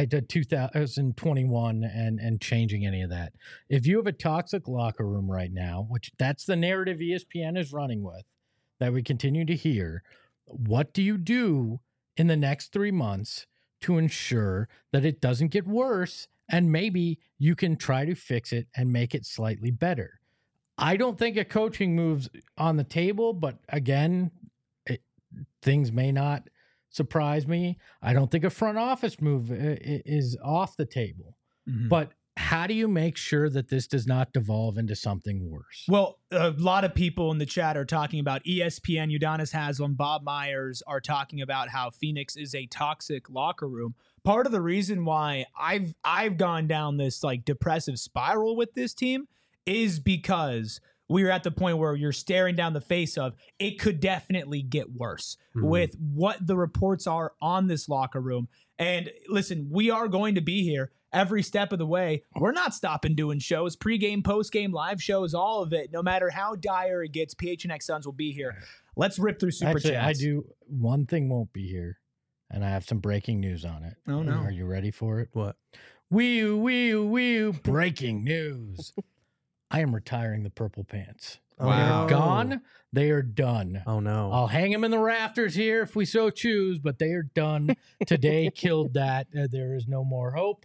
2021 and changing any of that. If you have a toxic locker room right now, which that's the narrative ESPN is running with, that we continue to hear, what do you do in the next 3 months to ensure that it doesn't get worse, and maybe you can try to fix it and make it slightly better? I don't think a coaching move's on the table, but again, things may not surprise me. I don't think a front office move is off the table. But how do you make sure that this does not devolve into something worse? Well, a lot of people in the chat are talking about ESPN, Udonis Haslem, Bob Myers are talking about how Phoenix is a toxic locker room. Part of the reason why I've gone down this, like, depressive spiral with this team is because we're at the point where you're staring down the face of it could definitely get worse with what the reports are on this locker room. And listen, we are going to be here every step of the way. We're not stopping doing shows, pregame, postgame, live shows, all of it. No matter how dire it gets, PHNX Suns will be here. Let's rip through super chats. I do. One thing won't be here, and I have some breaking news on it. Oh, no. Are you ready for it? What? Wee, breaking news. I am retiring the purple pants. Wow. They are gone. They are done. Oh, no. I'll hang them in the rafters here if we so choose, but they are done. Today killed that. There is no more hope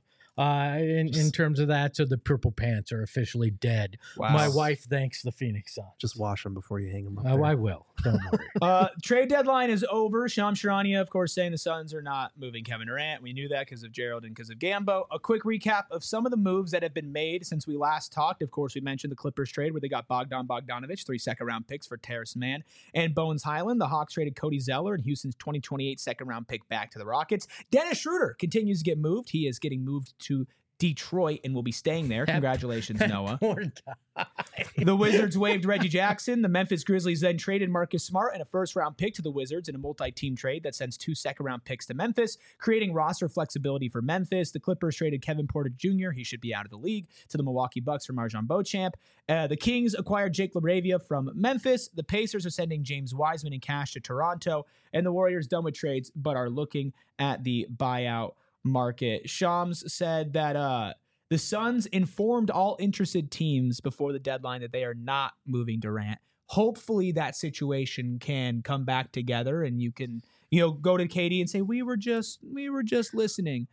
in terms of that. So the purple pants are officially dead. Wow. My wife thanks the Phoenix Suns. Just wash them before you hang them up. Oh, I will. Don't worry. Trade deadline is over. Shams Charania, of course, saying the Suns are not moving Kevin Durant. We knew that because of Gerald and because of Gambo. A quick recap of some of the moves that have been made since we last talked. Of course, we mentioned the Clippers trade where they got Bogdan Bogdanovic, 3 second-round picks for Terrace Mann and Bones Highland. The Hawks traded Cody Zeller and Houston's 2028 second-round pick back to the Rockets. Dennis Schroeder continues to get moved. He is getting moved to Detroit and will be staying there. Congratulations, Noah. Poor guy. The Wizards waived Reggie Jackson. The Memphis Grizzlies then traded Marcus Smart and a first-round pick to the Wizards in a multi-team trade that sends 2 second-round picks to Memphis, creating roster flexibility for Memphis. The Clippers traded Kevin Porter Jr., he should be out of the league, to the Milwaukee Bucks for Marjon Beauchamp. The Kings acquired Jake LaRavia from Memphis. The Pacers are sending James Wiseman in cash to Toronto. And the Warriors done with trades but are looking at the buyout market. Shams said that the Suns informed all interested teams before the deadline that they are not moving Durant. Hopefully that situation can come back together and you can, go to KD and say, we were just listening.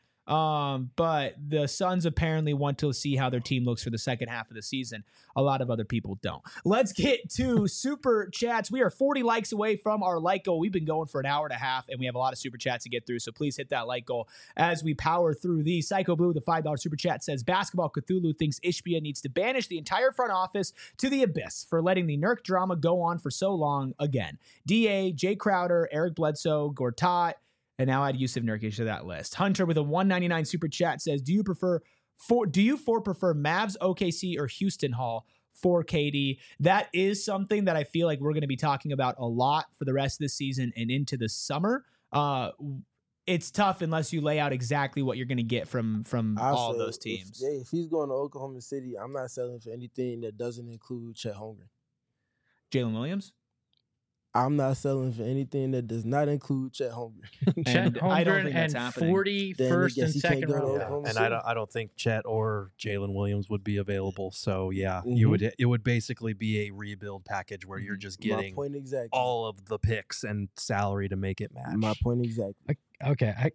But the Suns apparently want to see how their team looks for the second half of the season. A lot of other people don't. Let's get to super chats. We are 40 likes away from our like goal. We've been going for an hour and a half, and we have a lot of super chats to get through. So please hit that like goal as we power through these. Psycho Blue, the $5 super chat, says Basketball Cthulhu thinks Ishbia needs to banish the entire front office to the abyss for letting the Nurk drama go on for so long again. DA, Jay Crowder, Eric Bledsoe, Gortat, and now add Yusuf Nurkic to that list. Hunter with a $1.99 super chat says, do you prefer Mavs, OKC, or Houston Hall for KD? That is something that I feel like we're going to be talking about a lot for the rest of the season and into the summer. It's tough unless you lay out exactly what you're going to get from all those teams. If he's going to Oklahoma City, I'm not selling for anything that doesn't include Chet Holmgren. Jalen Williams? I'm not selling for anything that does not include Chet Holmgren. Chet I don't Holmgren think that's and happening. 40 Then I first guess and he can't second go to round. Oklahoma And City. I don't think Chet or Jalen Williams would be available. So yeah, Mhm. it would basically be a rebuild package where you're just getting My point exactly. all of the picks and salary to make it match. My point exactly. Okay,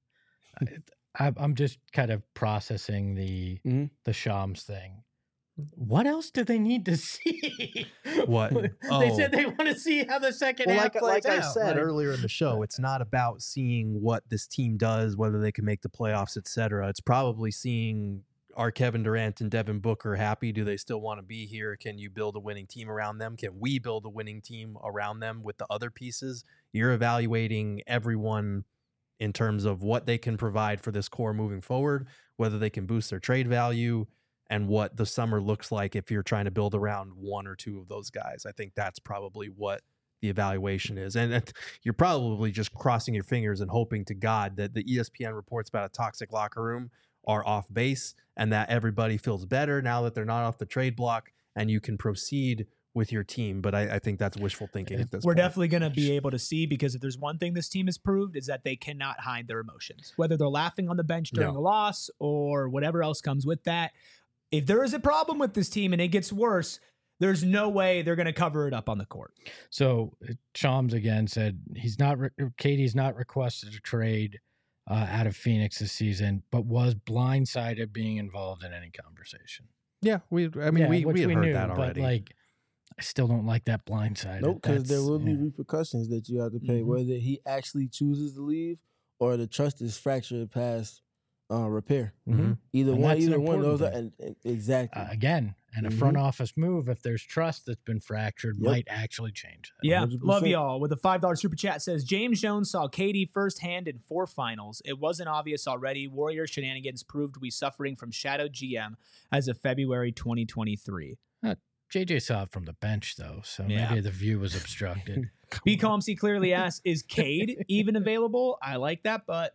I'm just kind of processing the Shams thing. What else do they need to see? What? They said they want to see how the second Well, half plays like I out. said Like, earlier in the show, it's not about seeing what this team does, whether they can make the playoffs, etc. It's probably seeing, are Kevin Durant and Devin Booker happy? Do they still want to be here? Can you build a winning team around them? Can we build a winning team around them with the other pieces? You're evaluating everyone in terms of what they can provide for this core moving forward, whether they can boost their trade value, and what the summer looks like if you're trying to build around one or two of those guys. I think that's probably what the evaluation is. And you're probably just crossing your fingers and hoping to God that the ESPN reports about a toxic locker room are off base and that everybody feels better now that they're not off the trade block and you can proceed with your team. But I think that's wishful thinking at this We're point. definitely going to be able to see, because if there's one thing this team has proved is that they cannot hide their emotions, whether they're laughing on the bench during No. a loss or whatever else comes with that. If there is a problem with this team and it gets worse, there's no way they're going to cover it up on the court. So Shams again said Katie's not requested a trade out of Phoenix this season, but was blindsided being involved in any conversation. Yeah, we had which heard that already. But like, I still don't like that blindsided. Nope, because there That's- will be yeah. repercussions that you have to pay, Mhm. whether he actually chooses to leave or the trust is fractured past repair. Mhm. Either And one, that's an either one of those. important And exactly. Again, and a front office move, if there's trust that's been fractured, Yep. might actually change that. Yeah, 100%. love y'all. With a $5 super chat says, James Jones saw KD firsthand in 4 finals. It wasn't obvious already. Warrior shenanigans proved we suffering from shadow GM as of February 2023. JJ saw it from the bench, though, so Yeah. maybe the view was obstructed. B. Calmsy clearly asks, is Cade even available? I like that, but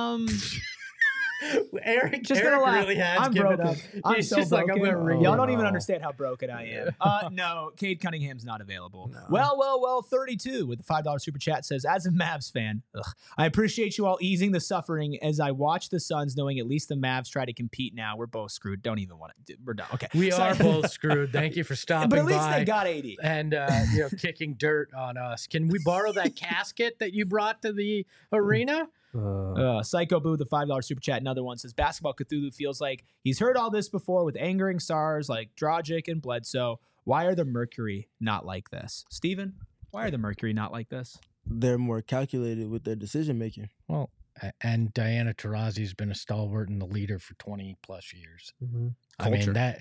Eric just gonna laugh. really has I'm given broken. up. I'm He's so just broken. like, I'm gonna read Y'all it. don't even No. understand how broken I am. No, Cade Cunningham's not available. No. Well, 32 with the $5 super chat says, as a Mavs fan, I appreciate you all easing the suffering as I watch the Suns, knowing at least the Mavs try to compete now. We're both screwed. Don't even want to. We're done. Okay. We So- are both screwed. Thank you for stopping But at least by they got 80. and kicking dirt on us. Can we borrow that casket that you brought to the arena? Psycho Boo, the $5 super chat. Another one says, Basketball Cthulhu feels like he's heard all this before with angering stars like Dragic and Bledsoe. Why are the Mercury not like this? Steven, why are the Mercury not like this? They're more calculated with their decision making. Well, and Diana Taurasi's been a stalwart and the leader for 20 plus years. I mean, Culture.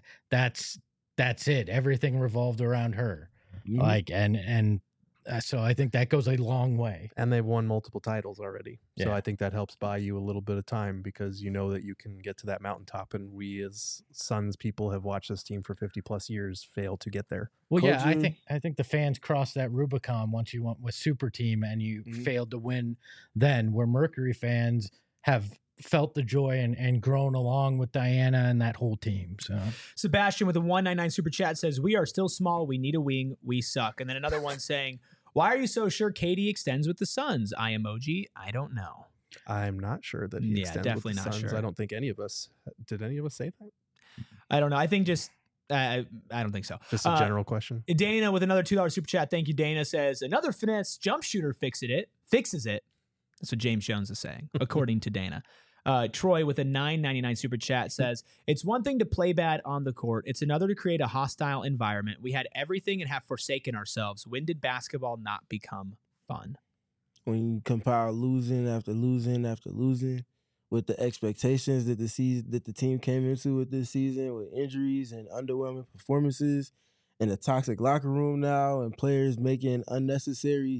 that's it. Everything revolved around her. Mhm. Like, and so I think that goes a long way. And they've won multiple titles already. So Yeah. I think that helps buy you a little bit of time because you know that you can get to that mountaintop. And we as Suns people have watched this team for 50 plus years fail to get there. Well, yeah, Culture- I think the fans crossed that Rubicon once you went with Super Team and you failed to win then, where Mercury fans have felt the joy and grown along with Diana and that whole team. So Sebastian with a 199 super chat says, we are still small. We need a wing. We suck. And then another one saying, why are you so sure Katie extends with the Suns? I emoji. I don't know. I'm not sure that he Yeah, extends definitely with the not Suns. sure. I don't think any of us did. Any of us say that? I don't know. I think just, I don't think so. Just a general question. Dana with another $2 super chat. Thank you, Dana. Says, another finesse jump shooter fixes it. That's what James Jones is saying, according to Dana. Troy with a $9.99 super chat says, it's one thing to play bad on the court. It's another to create a hostile environment. We had everything and have forsaken ourselves. When did basketball not become fun? When you compile losing after losing after losing, with the expectations that the team came into with this season, with injuries and underwhelming performances, and a toxic locker room now, and players making unnecessary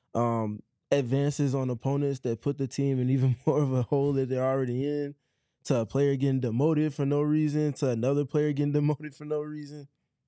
advances on opponents that put the team in even more of a hole that they're already in, to a player getting demoted for no reason, to another player getting demoted for no reason.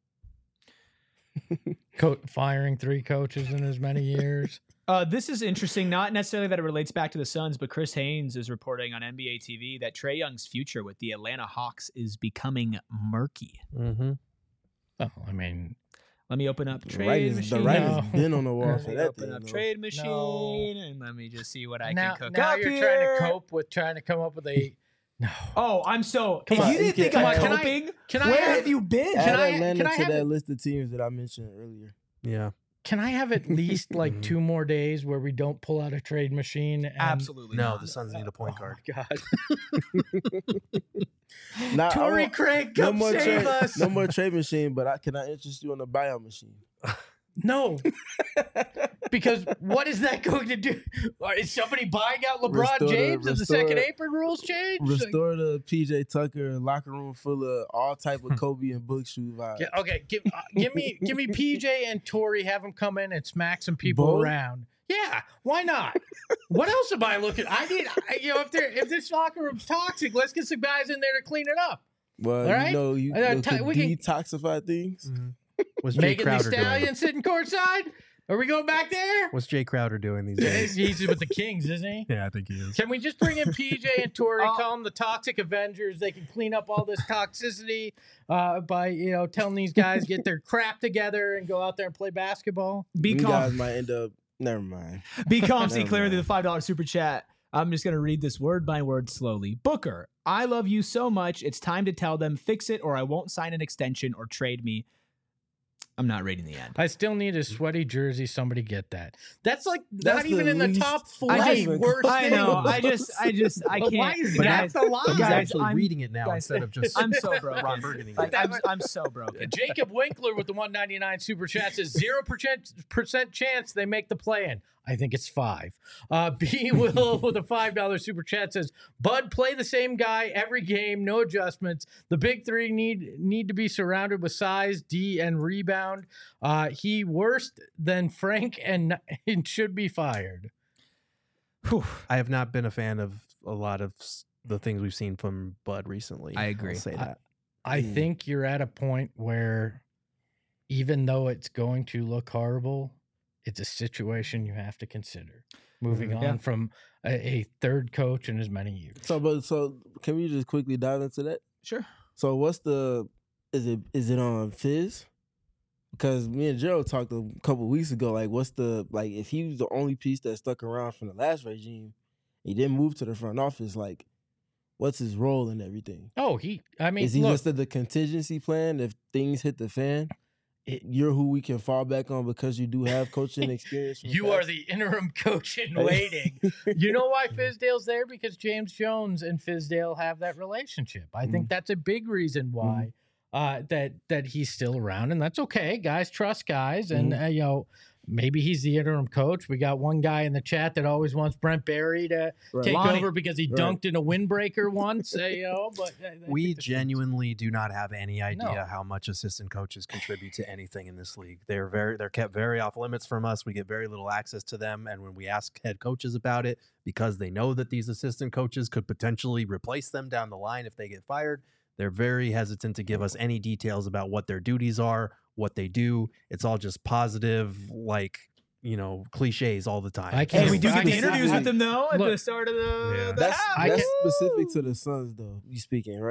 firing 3 coaches in as many years. This is interesting, not necessarily that it relates back to the Suns, but Chris Haynes is reporting on NBA TV that Trae Young's future with the Atlanta Hawks is becoming murky. Mm-hmm. Oh, I mean, Let me open up The trade machine. writing's been on the wall Let for me that open thing. up though. trade machine, and let me just see what I now, can cook now up you're here. trying to cope with trying to come up with a no. Oh, I'm so. Come if on, you didn't think come I'm on, coping, can I where have- have you been? Add I- Atlanta can I to have that it- list of teams that I mentioned earlier. Yeah. Can I have at least like 2 more days where we don't pull out a trade machine? And, Absolutely No, not. the Suns need a point guard. Oh, God. Nah, I Torrey want- Craig, no come more save trade, us. no more trade machine, but can I interest you in a buyout machine? No. Because what is that going to do? Is somebody buying out LeBron Restore the- James and the second restore- apron rules change? Restore the PJ Tucker locker room full of all type of Kobe and book shoe vibes. Yeah, okay, give me PJ and Torrey, have them come in and smack some people Both? around. Yeah, why not? What else am I looking? If this locker room's toxic, let's get some guys in there to clean it up. Well, All right? you could we can- detoxify things. What's Jay Megan Thee Crowder doing? Stallion sitting courtside. Are we going back there? What's Jay Crowder doing these days? He's with the Kings, isn't he? Yeah, I think he is. Can we just bring in PJ and Torrey, call them the Toxic Avengers? They can clean up all this toxicity by telling these guys get their crap together and go out there and play basketball. Be You calm. guys might end up. Never mind. Be calm, see Never clearly. The mind. $5 super chat. I'm just gonna read this word by word slowly. Booker, I love you so much. It's time to tell them fix it, or I won't sign an extension or trade me. I'm not reading the end. I still need a sweaty jersey. Somebody get that. That's like That's not even the in the least- top I 40 just- worst. I know. things. I But why can't. is But that the line? He's Guys, actually I'm- reading it now guys, instead of just I'm so broken. Ron Burgundy. Like, I'm so broken. Jacob Winkler with the 199 super chat says 0% chance they make the play-in. I think it's 5. B Will with a $5 super chat says, Bud, play the same guy every game, no adjustments. The big three need to be surrounded with size, D, and rebound. He worse than Frank and should be fired. Whew. I have not been a fan of a lot of the things we've seen from Bud recently. I agree. I'll say that. I Mm. think you're at a point where even though it's going to look horrible, it's a situation you have to consider. Moving on Yeah. from a third coach in as many years. So can we just quickly dive into that? Sure. So what's is it on Fizz? Because me and Gerald talked a couple weeks ago. Like, if he was the only piece that stuck around from the last regime, he didn't move to the front office. Like, what's his role in everything? Oh, Is he look, listed the contingency plan if things hit the fan? You're who we can fall back on because you do have coaching experience. from you are past? the interim coach in waiting. You know why Fizdale's there? Because James Jones and Fizdale have that relationship. I think that's a big reason why that he's still around, and that's okay. Guys trust guys, and maybe he's the interim coach. We got one guy in the chat that always wants Brent Barry to Right. take Lonnie. over because he Right. dunked in a windbreaker once. But I We think that's- genuinely do not have any idea No. how much assistant coaches contribute to anything in this league. They're kept very off limits from us. We get very little access to them, and when we ask head coaches about it, because they know that these assistant coaches could potentially replace them down the line if they get fired, they're very hesitant to give us any details about what their duties are, what they do. It's all just positive, cliches all the time. I can't- And we do I get the can- interviews with them though at Look, the start of the That's I that's can- specific to the Suns, though. You speaking right?